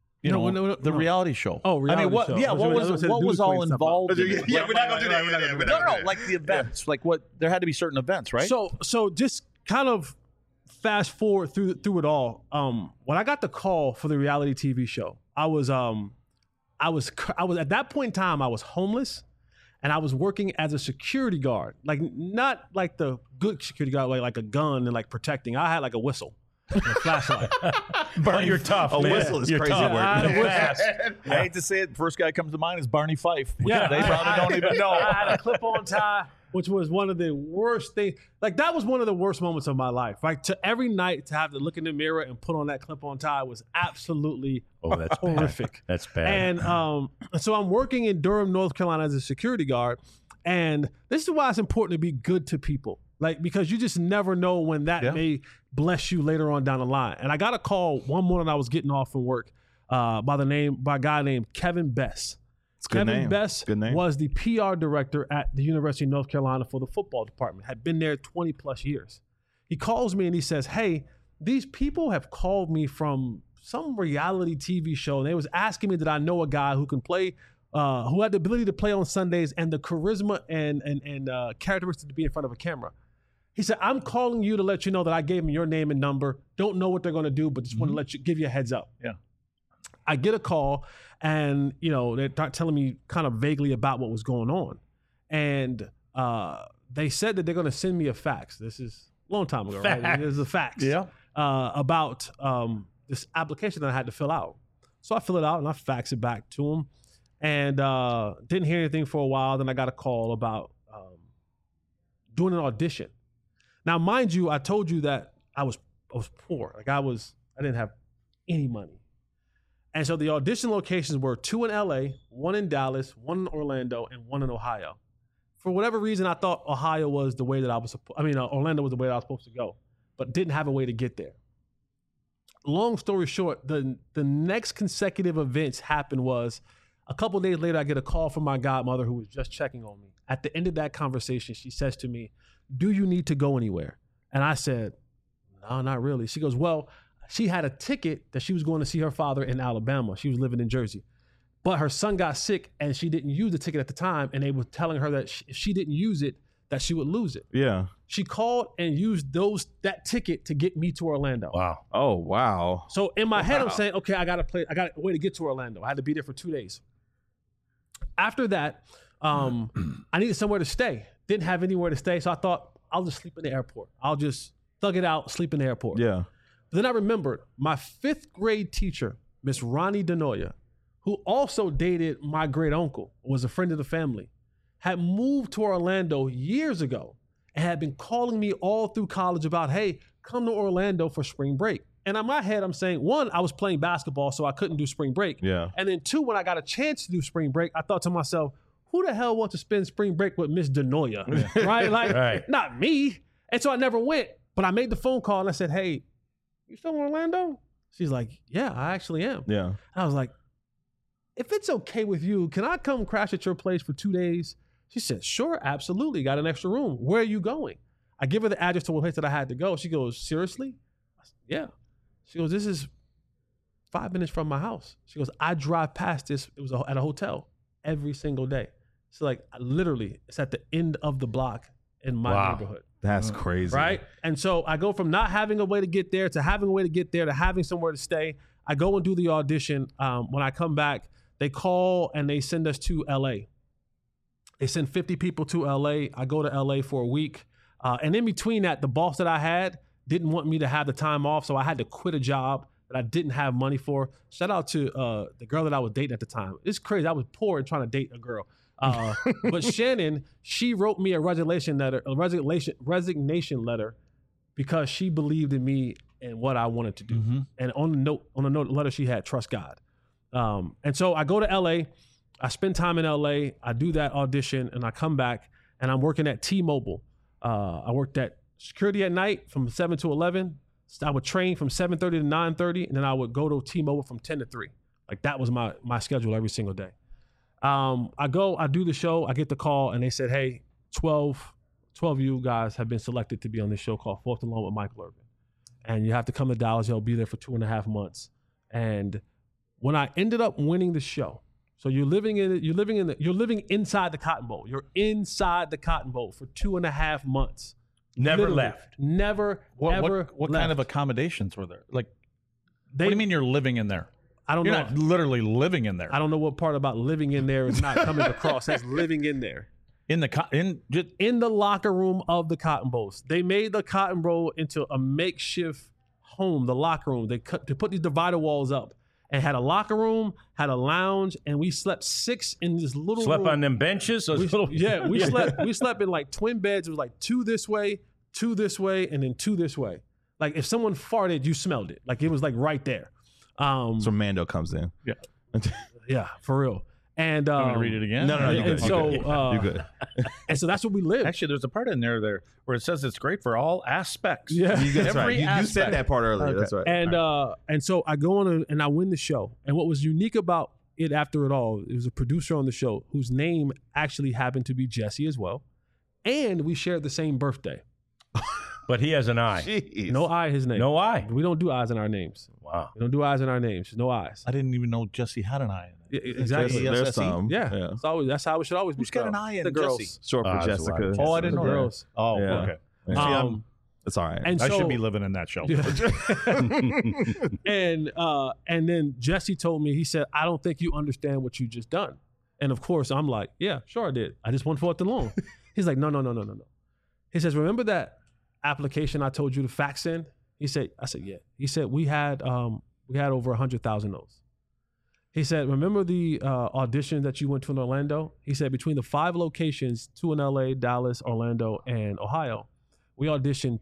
No, the reality show. Oh, reality what? show. Yeah, I was gonna say the what Doodoo was all Queen stuff. involved? in it? Yeah, we're not gonna do that. No, like the events. Like what? There had to be certain events, right? So just kind of fast forward through it all. When I got the call for the reality TV show, I was I was at that point in time, I was homeless and I was working as a security guard, like not like the good security guard, like a gun and like protecting. I had like a whistle and a flashlight. Bert, you're tough. A man. whistle is You're crazy tough. work. I had a whistle. Fast. I hate to say it. The first guy comes to mind is Barney Fife. Yeah, They probably don't even know. I had a clip-on tie, which was one of the worst things. Like that was one of the worst moments of my life. Like to every night to have to look in the mirror and put on that clip-on tie was absolutely That's horrific. Bad. That's bad. And so I'm working in Durham, North Carolina as a security guard. And this is why it's important to be good to people. Like, because you just never know when that may bless you later on down the line. And I got a call one morning I was getting off from work by a guy named Kevin Bess. Kevin Bess was the PR director at the University of North Carolina for the football department, had been there 20 plus years. He calls me and he says, hey, these people have called me from some reality TV show. And they was asking me that I know a guy who can play, who had the ability to play on Sundays and the charisma and characteristics to be in front of a camera. He said, I'm calling you to let you know that I gave him your name and number. Don't know what they're going to do, but just want to give you a heads up. Yeah. I get a call and, they're telling me kind of vaguely about what was going on. And they said that they're going to send me a fax. This is a long time ago, right? This is a fax about this application that I had to fill out. So I fill it out and I fax it back to them. And didn't hear anything for a while. Then I got a call about doing an audition. Now, mind you, I told you that I was poor. Like I didn't have any money. And so the audition locations were 2 in LA, 1 in Dallas, 1 in Orlando, and 1 in Ohio. For whatever reason, I thought Orlando was the way that I was supposed to go, but didn't have a way to get there. Long story short, the next consecutive events happened was a couple of days later, I get a call from my godmother who was just checking on me. At the end of that conversation, she says to me, do you need to go anywhere? And I said, no, not really. She goes, well, she had a ticket that she was going to see her father in Alabama. She was living in Jersey. But her son got sick and she didn't use the ticket at the time. And they were telling her that if she didn't use it, that she would lose it. Yeah. She called and used that ticket to get me to Orlando. Wow. Oh, wow. So in my head, I'm saying, okay, I got a way to get to Orlando. I had to be there for 2 days. After that, I needed somewhere to stay. Didn't have anywhere to stay. So I thought, I'll just sleep in the airport. I'll just thug it out, sleep in the airport. Yeah. But then I remembered my 5th grade teacher, Miss Ronnie Denoya, who also dated my great uncle, was a friend of the family, had moved to Orlando years ago and had been calling me all through college about, hey, come to Orlando for spring break. And in my head, I'm saying, 1, I was playing basketball, so I couldn't do spring break. Yeah. And then 2, when I got a chance to do spring break, I thought to myself, who the hell wants to spend spring break with Miss Denoya? Right? Like, not me. And so I never went. But I made the phone call and I said, hey, you from Orlando? She's like, yeah, I actually am. Yeah. And I was like, if it's okay with you, can I come crash at your place for 2 days? She said, sure, absolutely. Got an extra room. Where are you going? I give her the address to a place that I had to go. She goes, seriously? I said, yeah. She goes, this is 5 minutes from my house. She goes, I drive past this. It was at a hotel every single day. So like literally, it's at the end of the block in my neighborhood. That's crazy. Right? And so I go from not having a way to get there to having a way to get there to having somewhere to stay. I go and do the audition. When I come back, they call and they send us to LA. They send 50 people to LA. I go to LA for a week. And in between that, the boss that I had didn't want me to have the time off. So I had to quit a job that I didn't have money for. Shout out to the girl that I was dating at the time. It's crazy. I was poor and trying to date a girl. But Shannon, she wrote me a resignation letter because she believed in me and what I wanted to do. Mm-hmm. And on the letter she had, trust God. And so I go to LA, I spend time in LA, I do that audition and I come back and I'm working at T-Mobile. I worked at security at night from 7 to 11. I would train from 7:30 to 9:30 and then I would go to T-Mobile from 10 to 3. Like that was my schedule every single day. I do the show, I get the call, and they said, hey, 12 of you guys have been selected to be on this show called Fourth and Long with Michael Irvin. And you have to come to Dallas, you'll be there for 2.5 months. And when I ended up winning the show, so you're living inside the Cotton Bowl. You're inside the Cotton Bowl for 2.5 months. Never Literally. left. Never, ever What left. kind of accommodations were there? Like, what do you mean you're living in there? I don't You're know. not literally living in there. I don't know what part about living in there is not coming across. That's living in there. In In the locker room of the Cotton Bowls. They made the Cotton Bowl into a makeshift home, the locker room. They put these divider walls up and had a locker room, had a lounge, and we slept 6 in this little Slept room. on them benches. Those little, We slept in like twin beds. It was like 2 this way, 2 this way, and then 2 this way. Like if someone farted, you smelled it. Like it was like right there. So Mando comes in. Yeah. Yeah, for real. And I'm gonna read it again. No, you're and good. so You're good. and so that's what we live. Actually, there's a part in there where it says it's great for all aspects. Yeah. That's right. Every You said aspect. that part earlier. Okay. That's right. And so I go on and I win the show. And what was unique about it after it all, it was a producer on the show whose name actually happened to be Jesse as well. And we shared the same birthday. but he has an eye. Jeez. No I his name. No eye. We don't do eyes in our names. Wow. We don't do eyes in our names. No eyes. I didn't even know Jesse had an eye in it. Exactly. Yes, There's yes, some. Yeah. It's always, that's how it should always be. Who's got an spelled. eye in the girls. Jesse? Short for that's Jessica. why. Oh, I didn't The know that. girls. Oh, Yeah. okay. Yeah. See, It's all right. And I so, should be living in that show. and then Jesse told me, he said, I don't think you understand what you just done. And of course, I'm like, yeah, sure I did. I just won 4th and long. He's like, no. He says, remember that application I told you to fax in? I said, yeah. He said, we had over 100,000 notes. He said, remember the audition that you went to in Orlando? He said, between the 5 locations, 2 in LA, Dallas, Orlando, and Ohio, we auditioned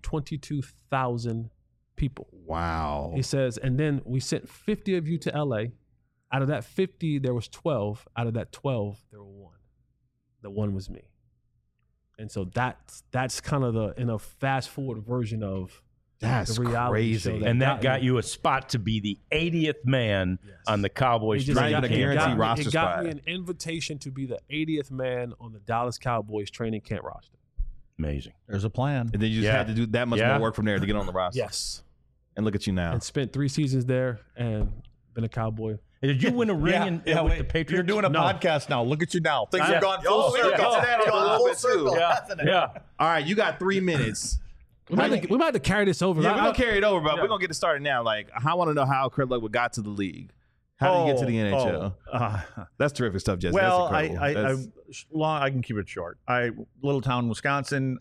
22,000 people. Wow. He says, and then we sent 50 of you to LA. Out of that 50, there was 12. Out of that 12, there were 1. The 1 was me. And so that's kind of the fast forward version of That's the reality crazy. show And that got me. you a spot to be the 80th man on the Cowboys. It just Not even got- a it guaranteed got me- roster It got spot. me an invitation to be the 80th man on the Dallas Cowboys training camp roster. Amazing. There's a plan. And then you just Yeah. had to do that much Yeah. more work from there to get on the roster. Yes. And look at you now. And spent 3 seasons there and been a Cowboy. Did you win a ring with wait. the Patriots? You're doing a No. podcast now. Look at you now. Things Yeah. have gone full Oh, circle. we'll get to that in a little bit, too. Yeah. All right, you got 3 minutes. We might have to carry this over. Yeah, we're I- gonna carry it over, but we're gonna get it started now. Like, I want to know how Craig Ludwig got to the league. How did he get to the NHL? That's terrific stuff, Jesse. Well, That's incredible. I can keep it short. Little town, Wisconsin,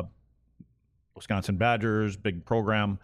Wisconsin Badgers, big program.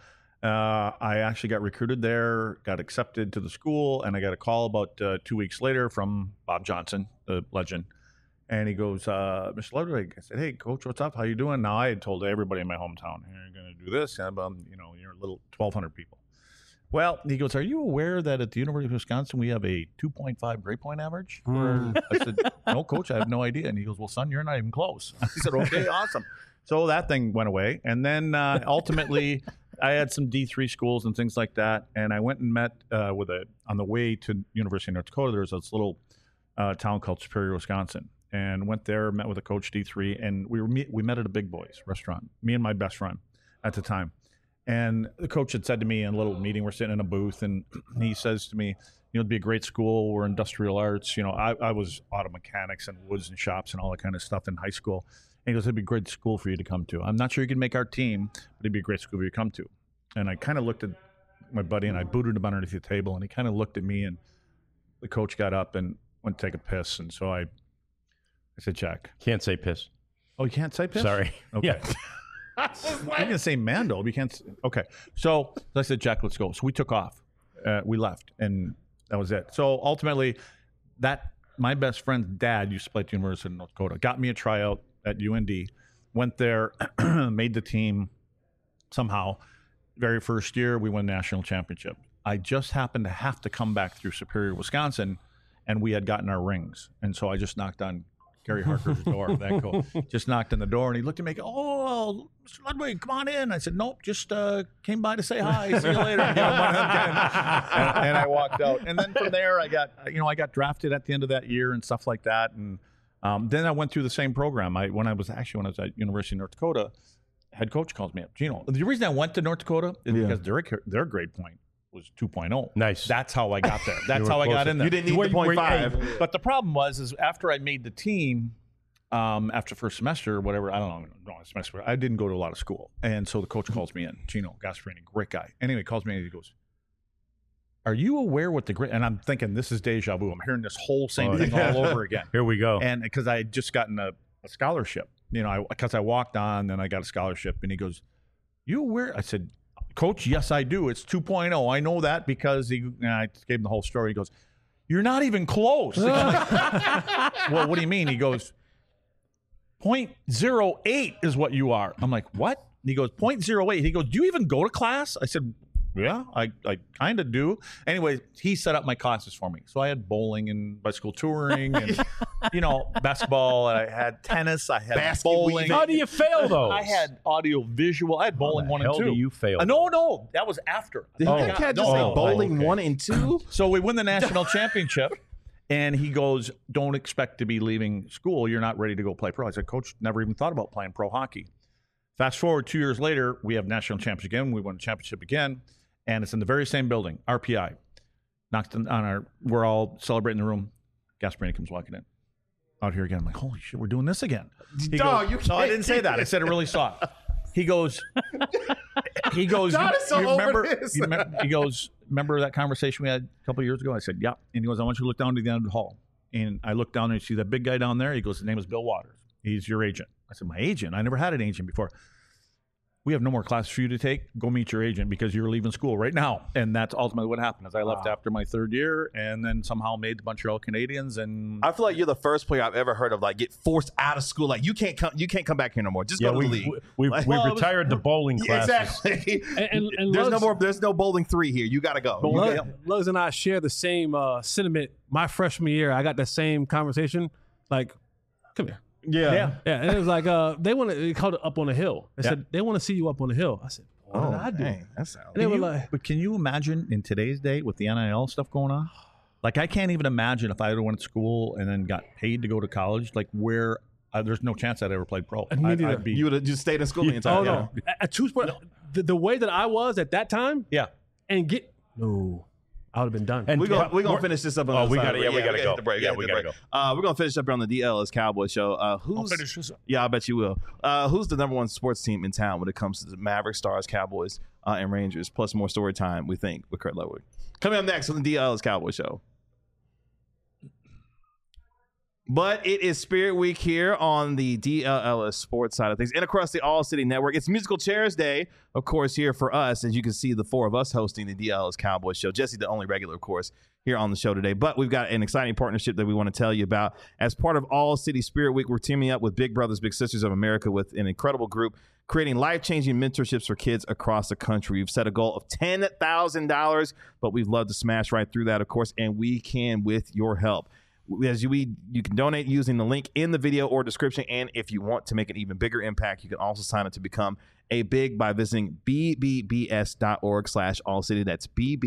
I actually got recruited there, got accepted to the school, and I got a call about 2 weeks later from Bob Johnson, the legend. And he goes, Mr. Ludwig, I said, hey, Coach, what's up? How you doing? Now, I had told everybody in my hometown, hey, you're going to do this. And, you're a little 1,200 people. Well, he goes, are you aware that at the University of Wisconsin, we have a 2.5 grade point average? I said, no, Coach, I have no idea. And he goes, well, son, you're not even close. I said, okay, awesome. So that thing went away. And then ultimately, I had some D3 schools and things like that. And I went and met on the way to University of North Dakota, there's this little town called Superior, Wisconsin. And went there, met with a coach D3, and we met at a Big Boys restaurant. Me and my best friend at the time, and the coach had said to me in a little meeting, we're sitting in a booth, and he says to me, it'd be a great school. We're industrial arts. I was auto mechanics and woods and shops and all that kind of stuff in high school. And he goes, it'd be a great school for you to come to. I'm not sure you can make our team, but it'd be a great school for you to come to. And I kind of looked at my buddy, and I booted him underneath the table, and he kind of looked at me, and the coach got up and went to take a piss, and so I said, Jack. Can't say piss. Oh, you can't say piss? Sorry. Okay. Yeah. You can say Mando. But you can't. Okay. So I said, Jack, let's go. So we took off. We left, and that was it. So ultimately, my best friend's dad used to play at the University of North Dakota. Got me a tryout at UND. Went there, made the team somehow. Very first year, we won national championship. I just happened to have to come back through Superior, Wisconsin, and we had gotten our rings. And so I just knocked on Gary Harker's door. That cool. Just knocked on the door, and he looked at me. Oh, Mr. Ludwig, come on in. I said, nope, just came by to say hi. See you later. One of them kind. And I walked out. And then from there, I got drafted at the end of that year and stuff like that. And then I went through the same program. When I was at University of North Dakota, head coach calls me up. Gino, the reason I went to North Dakota is because their grade point was 2.0. Nice. That's how I got there. That's how I got in there. You didn't need the 0.5. But the problem was after I made the team, after first semester or whatever, I don't know, semester, I didn't go to a lot of school. And so the coach calls me in, Gino Gasparini, great guy. Anyway, he calls me and he goes, are you aware what the great? And I'm thinking this is deja vu. I'm hearing this whole same thing all over again. Here we go. And because I had just gotten a scholarship, because I walked on, then I got a scholarship, and he goes, "You aware?" I said, "Coach, yes, I do. It's 2.0. I know that because I gave him the whole story. He goes, "You're not even close." Well, what do you mean? He goes, 0.08 is what you are. I'm like, what? And he goes, 0.08. He goes, do you even go to class? I said, yeah, I kind of do. Anyway, he set up my classes for me. So I had bowling and bicycle touring and, basketball. I had tennis. I had bowling. How do you fail those? I had audio visual. I had bowling 1 and 2. How do you fail? No, that was after. Did that cat just say bowling 1 and 2? So we win the national championship. And he goes, don't expect to be leaving school. You're not ready to go play pro. I said, Coach, never even thought about playing pro hockey. Fast forward 2 years later, we have national championship again. We won the championship again. And it's in the very same building, RPI. We're all celebrating in the room. Gasparini comes walking in. Out here again. I'm like, holy shit, we're doing this again. Dog, you No, I can't didn't say do that. I said it really soft. He goes, God is so over this. He goes, remember that conversation we had a couple of years ago? I said, yeah. And he goes, I want you to look down to the end of the hall. And I look down there and see that big guy down there. He goes, his name is Bill Waters. He's your agent. I said, my agent? I never had an agent before. We have no more classes for you to take. Go meet your agent because you're leaving school right now. And that's ultimately what happened. As I left after my third year, and then somehow made the Montreal Canadiens. And I feel like you're the first player I've ever heard of get forced out of school. Like you can't come back here no more. Just go to the league. We've retired the bowling classes. Exactly. And There's no bowling 3 here. You got to go. Lugs and I share the same sentiment. My freshman year, I got that same conversation. Like, come here. Yeah. Yeah, and it was like they called it up on the hill. They said they want to see you up on the hill. I said, what did I do? Dang, that sounds. And they were like, but can you imagine in today's day with the NIL stuff going on? Like, I can't even imagine if I went to school and then got paid to go to college, like where there's no chance I'd ever played pro. I'd be, you would have just stayed in school the entire time. Oh, no. At 2 sports, the way that I was at that time, yeah, and I would have been done. And we're gonna finish this up on the we side. gotta go. The break. Yeah, we gotta go. We're gonna finish up here on the DLS Cowboys show. I'll finish this up. Yeah, I bet you will. Who's the number one sports team in town when it comes to the Mavericks, Stars, Cowboys, and Rangers? Plus more story time, we think, with Kurt Ludwig. Coming up next on the DLS Cowboys show. But it is Spirit Week here on the DLS sports side of things and across the All City Network. It's Musical Chairs Day, of course, here for us. As you can see, the 4 of us hosting the DLS Cowboys show. Jesse, the only regular, of course, here on the show today. But we've got an exciting partnership that we want to tell you about. As part of All City Spirit Week, we're teaming up with Big Brothers Big Sisters of America with an incredible group creating life-changing mentorships for kids across the country. We've set a goal of $10,000, but we'd love to smash right through that, of course, and we can with your help. As you can donate using the link in the video or description, and if you want to make an even bigger impact, you can also sign up to become a big by visiting bbbs.org/allcity. That's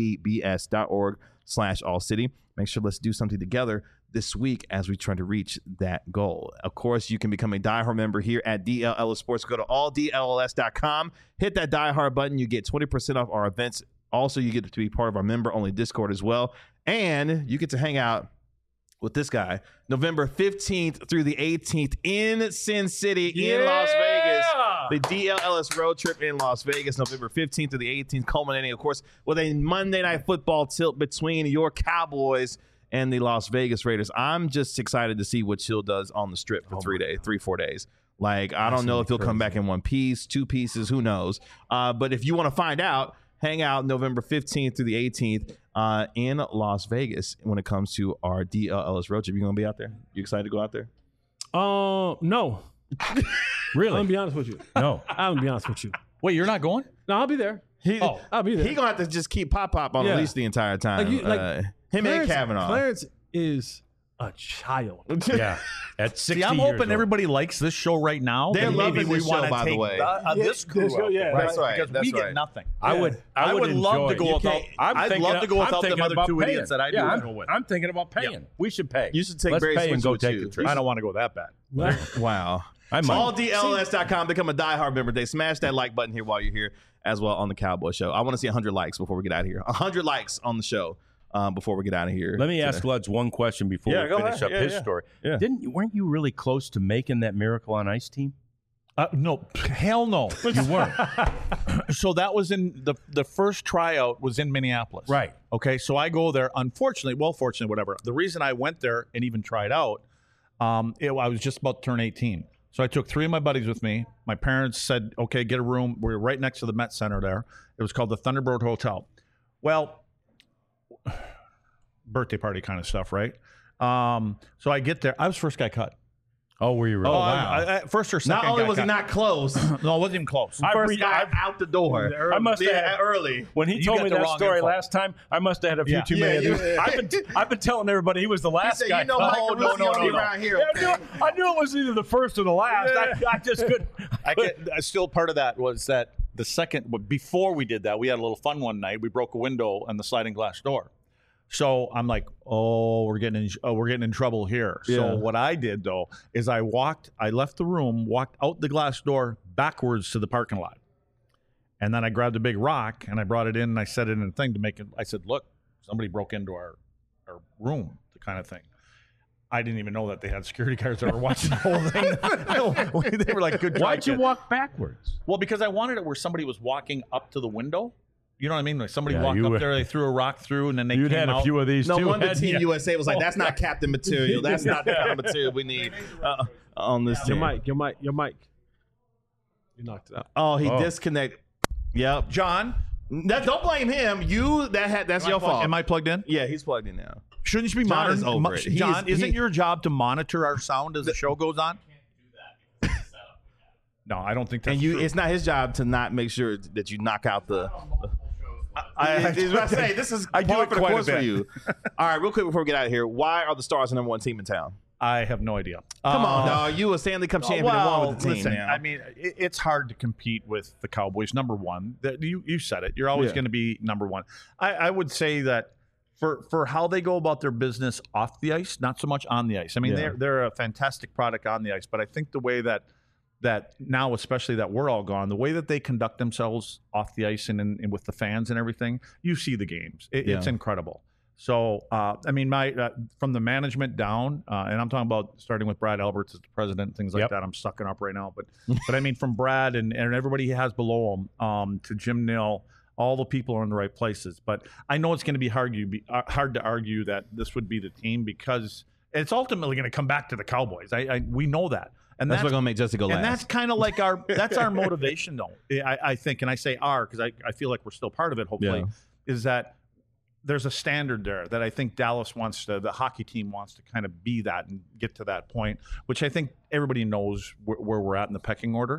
bbbs.org/allcity. Make sure let's do something together this week as we try to reach that goal. Of course, you can become a diehard member here at DLLS Sports. Go to alldlls.com, hit that diehard button. You get 20% off our events. Also, you get to be part of our member-only Discord as well, and you get to hang out with this guy, November 15th through the 18th in Sin City in Las Vegas. The DLLS road trip in Las Vegas, November 15th through the 18th, culminating, of course, with a Monday Night Football tilt between your Cowboys and the Las Vegas Raiders. I'm just excited to see what Chill does on the strip for 4 days. Like, I don't know if he'll come back in one piece, 2 pieces, who knows. But if you want to find out, hang out November 15th through the 18th in Las Vegas when it comes to our DLLS road trip. You going to be out there? You excited to go out there? No. Really? I'm going to be honest with you. No. I'm going to be honest with you. Wait, you're not going? No, I'll be there. I'll be there. He going to have to just keep Pop on the leash the entire time. Him and Kavanaugh. Clarence is a child. Yeah. At 60 See, I'm years hoping old. everybody likes this show right now. They're and maybe loving we this want show, to by the take way. this crew this show, out yeah. there, That's right. Because That's we right. get nothing. I would love to go without. I'd love to go without them other 2 idiots that I do go with. I'm thinking about paying. Yeah. We should pay. You should take Let's Barry pay and Switzer go with take you. the trip. I don't want to go that bad. Wow. I might. AllDLS.com. Become a diehard member. They smash that like button here while you're here as well on the Cowboy Show. I want to see 100 likes before we get out of here. 100 likes on the show before we get out of here. Let me ask Luds one question before we finish up his story. Yeah. Weren't you really close to making that Miracle on Ice team? No, hell no. You weren't. So that was in the first tryout was in Minneapolis. Right. Okay. So I go there. Unfortunately, fortunately, whatever. The reason I went there and even tried out, I was just about to turn 18. So I took 3 of my buddies with me. My parents said, "Okay, get a room." We were right next to the Met Center there. It was called the Thunderbird Hotel. Well, birthday party kind of stuff, right? So I get there. I was first guy cut. Oh, were you really? First or second. Not only guy was he cut. not close, No, it wasn't even close. first guy out the door. I must have had early. When he told got me the that wrong story info. last time, I must have had a few Yeah. too many. Yeah, of these. yeah. I've been telling everybody he was the last He said, guy. "You know, cut. Michael Russo only around here." Yeah, I knew it was either the first or the last. I just couldn't. Still part of that was that the second before we did that, we had a little fun one night. We broke a window and the sliding glass door. So I'm like, oh, we're getting in trouble here. Yeah. So what I did though is I left the room, walked out the glass door backwards to the parking lot, and then I grabbed a big rock and I brought it in and I set it in a thing to make it. I said, look, somebody broke into our room, the kind of thing. I didn't even know that they had security guards that were watching the whole thing. They were like, good try, Why'd you kid. walk backwards? Well, because I wanted it where somebody was walking up to the window. You know what I mean? Like somebody Yeah, walked you up were- there, they threw a rock through, and then they You'd came had out. a few of these No too. wonder hadn't Team you? USA was like, "That's not captain material. That's not the kind of material we need on this Your team." mic. You knocked it out. Oh, he Oh. disconnected. Yep. John, Don't blame him. That's your fault. Am I plugged in? Yeah, he's plugged in now. Shouldn't you be John is monitoring? over it. He John, is- isn't your job to monitor our sound as the show goes on? No, I don't think that's And you, true. it's not his job to not make sure that you knock out the. I was about to say this is I do par it for the quite a course for bit. you. All right, real quick before we get out of here, why are the Stars the #1 team in town? I have no idea. Come on, dog. You a Stanley Cup champion and won with the team. listen, now. I mean, it's hard to compete with the Cowboys. Number one, you said it. You're always Yeah. going to be number one. I would say that for how they go about their business off the ice, not so much on the ice. I mean, Yeah. they're a fantastic product on the ice, but I think the way that now, especially that we're all gone, the way that they conduct themselves off the ice and with the fans and everything, you see the games. It's Yeah. incredible. So, I mean, from the management down, and I'm talking about starting with Brad Alberts as the president, and things like Yep. that. I'm sucking up right now, but I mean, from Brad and everybody he has below him, to Jim Nill, all the people are in the right places. But I know it's going to be hard to argue that this would be the team because it's ultimately going to come back to the Cowboys. We know that, and that's what's gonna make Jesse go last. and that's kind of like our motivation, though. I think, and I say our because I feel like we're still part of it. Hopefully, Yeah. is that there's a standard there that I think Dallas wants to, the hockey team wants to kind of be that and get to that point, which I think everybody knows where we're at in the pecking order.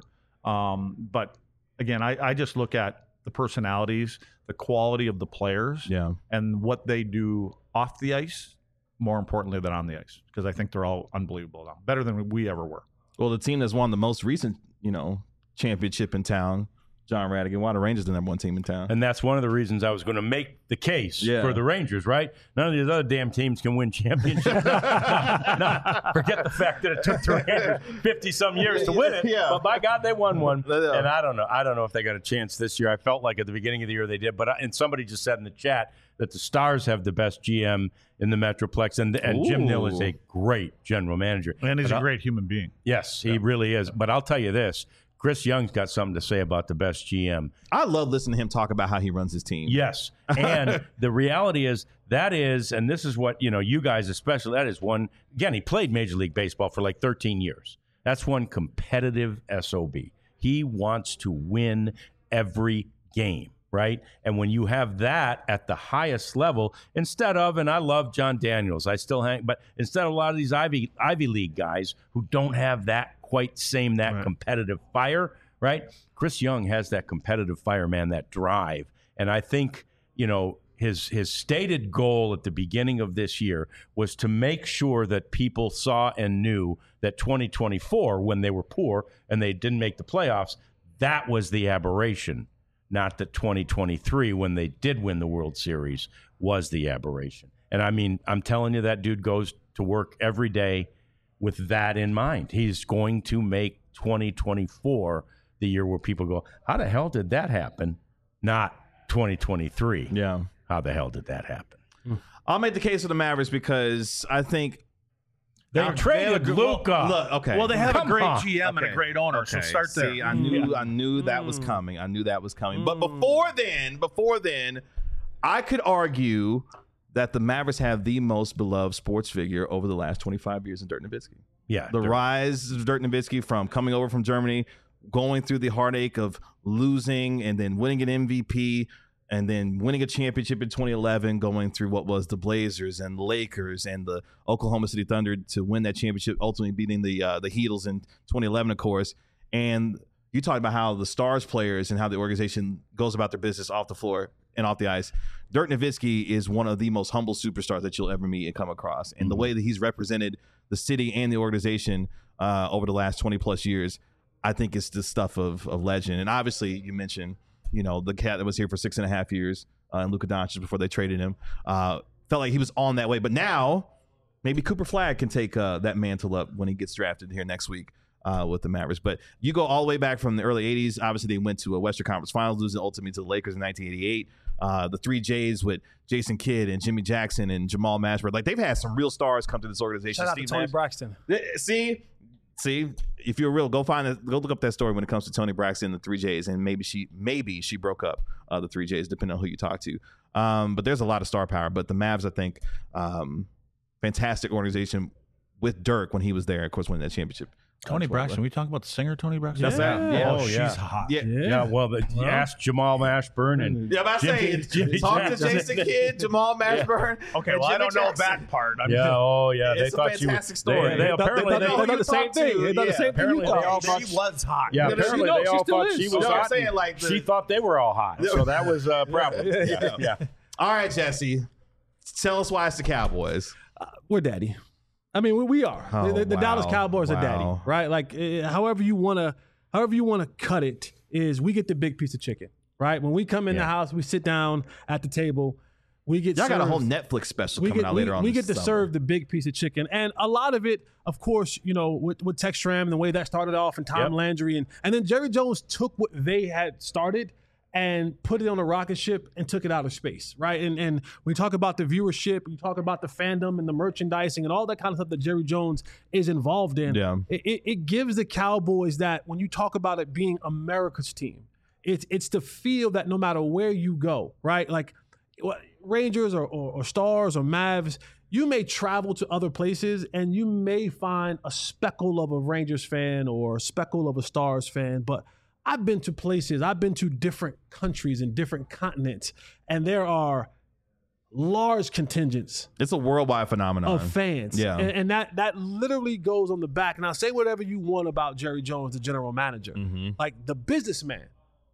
But again, I just look at the personalities, the quality of the players, Yeah. and what they do off the ice, more importantly than on the ice, because I think they're all unbelievable now, better than we ever were. Well, the team that's won the most recent, championship in town, John Radigan. Why the Rangers the #1 team in town? And that's one of the reasons I was going to make the case Yeah. for the Rangers, right? None of these other damn teams can win championships. No, forget the fact that it took the Rangers 50-some years to win it. Yeah. But by God, they won one. Yeah. And I don't know. I don't know if they got a chance this year. I felt like at the beginning of the year they did. But and somebody just said in the chat that the Stars have the best GM in the Metroplex. And Jim Nill is a great general manager. And he's But a great human being. Yes, he really is. But I'll tell you this. Chris Young's got something to say about the best GM. I love listening to him talk about how he runs his team. Yes. And the reality is, and this is what, you guys especially, that is one, again, he played Major League Baseball for like 13 years. That's one competitive SOB. He wants to win every game, right? And when you have that at the highest level, instead of, and I love John Daniels, I still hang, but instead of a lot of these Ivy League guys who don't have that competitive fire, right? Chris Young has that competitive fire, man, that drive. And I think, his stated goal at the beginning of this year was to make sure that people saw and knew that 2024, when they were poor and they didn't make the playoffs, that was the aberration, not that 2023, when they did win the World Series, was the aberration. And I mean, I'm telling you, that dude goes to work every day with that in mind. He's going to make 2024 the year where people go, how the hell did that happen? Not 2023. Yeah. How the hell did that happen? I'll make the case for the Mavericks because I think They traded Luka. Look, okay. Well, they have Come a great on. GM and a great owner, so start there. See, I knew that was coming. I knew that was coming. But before then, I could argue that the Mavericks have the most beloved sports figure over the last 25 years in Dirk Nowitzki. Yeah. The rise of Dirk Nowitzki from coming over from Germany, going through the heartache of losing and then winning an MVP and then winning a championship in 2011, going through what was the Blazers and the Lakers and the Oklahoma City Thunder to win that championship, ultimately beating the Heatles in 2011, of course. And you talked about how the Stars players and how the organization goes about their business off the floor and off the ice. Dirk Nowitzki is one of the most humble superstars that you'll ever meet and come across. And the way that he's represented the city and the organization over the last 20 plus years, I think it's the stuff of legend. And obviously you mentioned, the cat that was here for 6.5 years, and Luka Doncic before they traded him, felt like he was on that way. But now maybe Cooper Flagg can take that mantle up when he gets drafted here next week with the Mavericks. But you go all the way back from the early 80s. Obviously, they went to a Western Conference Finals, losing ultimately to the Lakers in 1988. The three J's with Jason Kidd and Jimmy Jackson and Jamal Mashburn. Like, they've had some real stars come to this organization. Shout out to Tony Braxton. See, if you're real, go look up that story when it comes to Tony Braxton and the three J's, and maybe she broke up the three J's, depending on who you talk to. But there's a lot of star power. But the Mavs, I think, fantastic organization with Dirk when he was there, of course, winning that championship. Tony Braxton. We talking about the singer Tony Braxton? That's that. Yeah. Oh, yeah. She's hot. Yeah. Well, you asked Jamal Mashburn and Yeah, but I say Jimmy talk to Jackson. Jason Kidd, Jamal Mashburn. Okay, and well, I Jimmy don't know Jackson. that part. They It's a thought she was fantastic story. They apparently they thought the same thing. They thought the same thing. apparently they all thought She was hot. Yeah, apparently they all thought she was No, I'm hot. saying, and like, she thought they were all hot, so that was a problem. Yeah. All right, Jesse, tell us why it's the Cowboys. We're daddy. I mean, we are. Oh, the Dallas wow. Cowboys are daddy, Wow. right? Like, however you wanna cut it, is we get the big piece of chicken, right? When we come in the house, we sit down at the table, we get Y'all got a served- whole Netflix special coming out later on. We this get to summer. serve the big piece of chicken. And a lot of it, of course, with Tex Schramm and the way that started off and Tom Landry. And then Jerry Jones took what they had started and put it on a rocket ship and took it out of space, right? And we talk about the viewership, we talk about the fandom and the merchandising and all that kind of stuff that Jerry Jones is involved in. Yeah. It gives the Cowboys that, when you talk about it being America's team, it's the feel that no matter where you go, right? Like Rangers or Stars or Mavs, you may travel to other places and you may find a speckle of a Rangers fan or a speckle of a Stars fan, but I've been to places, I've been to different countries and different continents, and there are large contingents It's a worldwide phenomenon of fans. Yeah. And that literally goes on the back. Now, say whatever you want about Jerry Jones, the general manager. Like, the businessman,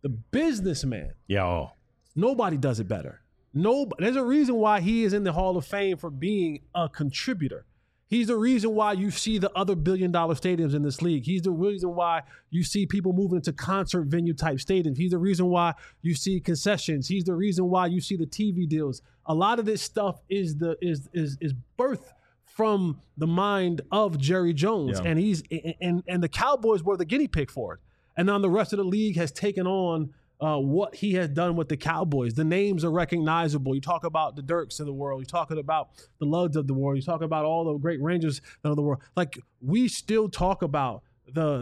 Yeah. nobody does it better. There's a reason why he is in the Hall of Fame for being a contributor. He's the reason why you see the other billion-dollar stadiums in this league. He's the reason why you see people moving into concert venue type stadiums. He's the reason why you see concessions. He's the reason why you see the TV deals. A lot of this stuff is birthed from the mind of Jerry Jones, Yeah. and he's and the Cowboys were the guinea pig for it. And now the rest of the league has taken on what he has done with the Cowboys. The names are recognizable. You talk about the Dirks of the world. You're talking about the Ludds of the world. You talk about all the great Rangers of the world. Like, we still talk about the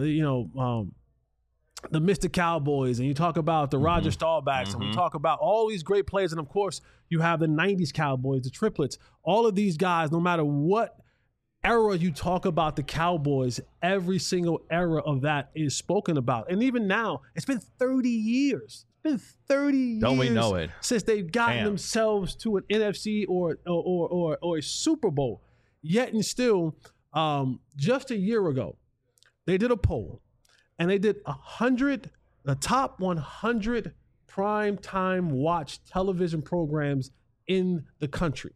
Mr. Cowboys, and you talk about the Roger Staubachs, and we talk about all these great players. And of course, you have the 90s Cowboys, the triplets. All of these guys, no matter what era you talk about the Cowboys, every single era of that is spoken about. And even now, it's been 30 years. It's been 30 years. Don't we know it? Since they've gotten Damn. themselves to an NFC or a Super Bowl. Yet and still, just a year ago, they did a poll, and they did the top 100 prime time watch television programs in the country.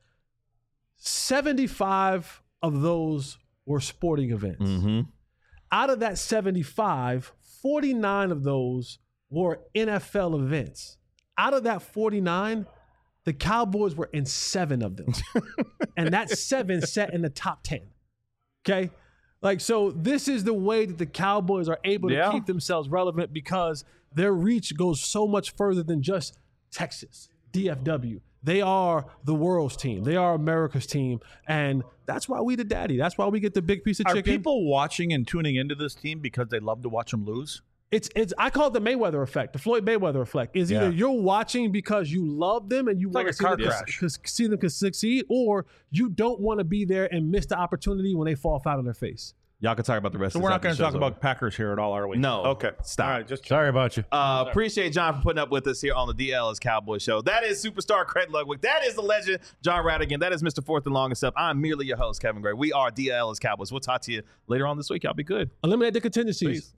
75 of those were sporting events. Out of that 75, 49 of those were NFL events. Out of that 49, the Cowboys were in 7 of them. And that 7 sat in the top 10. Okay? Like, so this is the way that the Cowboys are able to keep themselves relevant, because their reach goes so much further than just Texas, DFW. They are the world's team. They are America's team. And that's why we the daddy. That's why we get the big piece of Are chicken. people watching and tuning into this team because they love to watch them lose? It's I call it the Mayweather effect, the Floyd Mayweather effect. Is either you're watching because you love them and you want like to a car crash. see them succeed, or you don't want to be there and miss the opportunity when they fall flat on their face. Y'all can talk about the rest So of we're this not after going the to talk show's about over. Packers here at all, are we? No. Okay. Stop. All right. Just Sorry about you. Appreciate John for putting up with us here on the DL's Cowboy Show. That is superstar Craig Ludwig. That is the legend, John Radigan. That is Mr. Fourth and Long and Stuff. I'm merely your host, Kevin Gray. We are DL's Cowboys. We'll talk to you later on this week. Y'all be good. Eliminate the contingencies. Peace.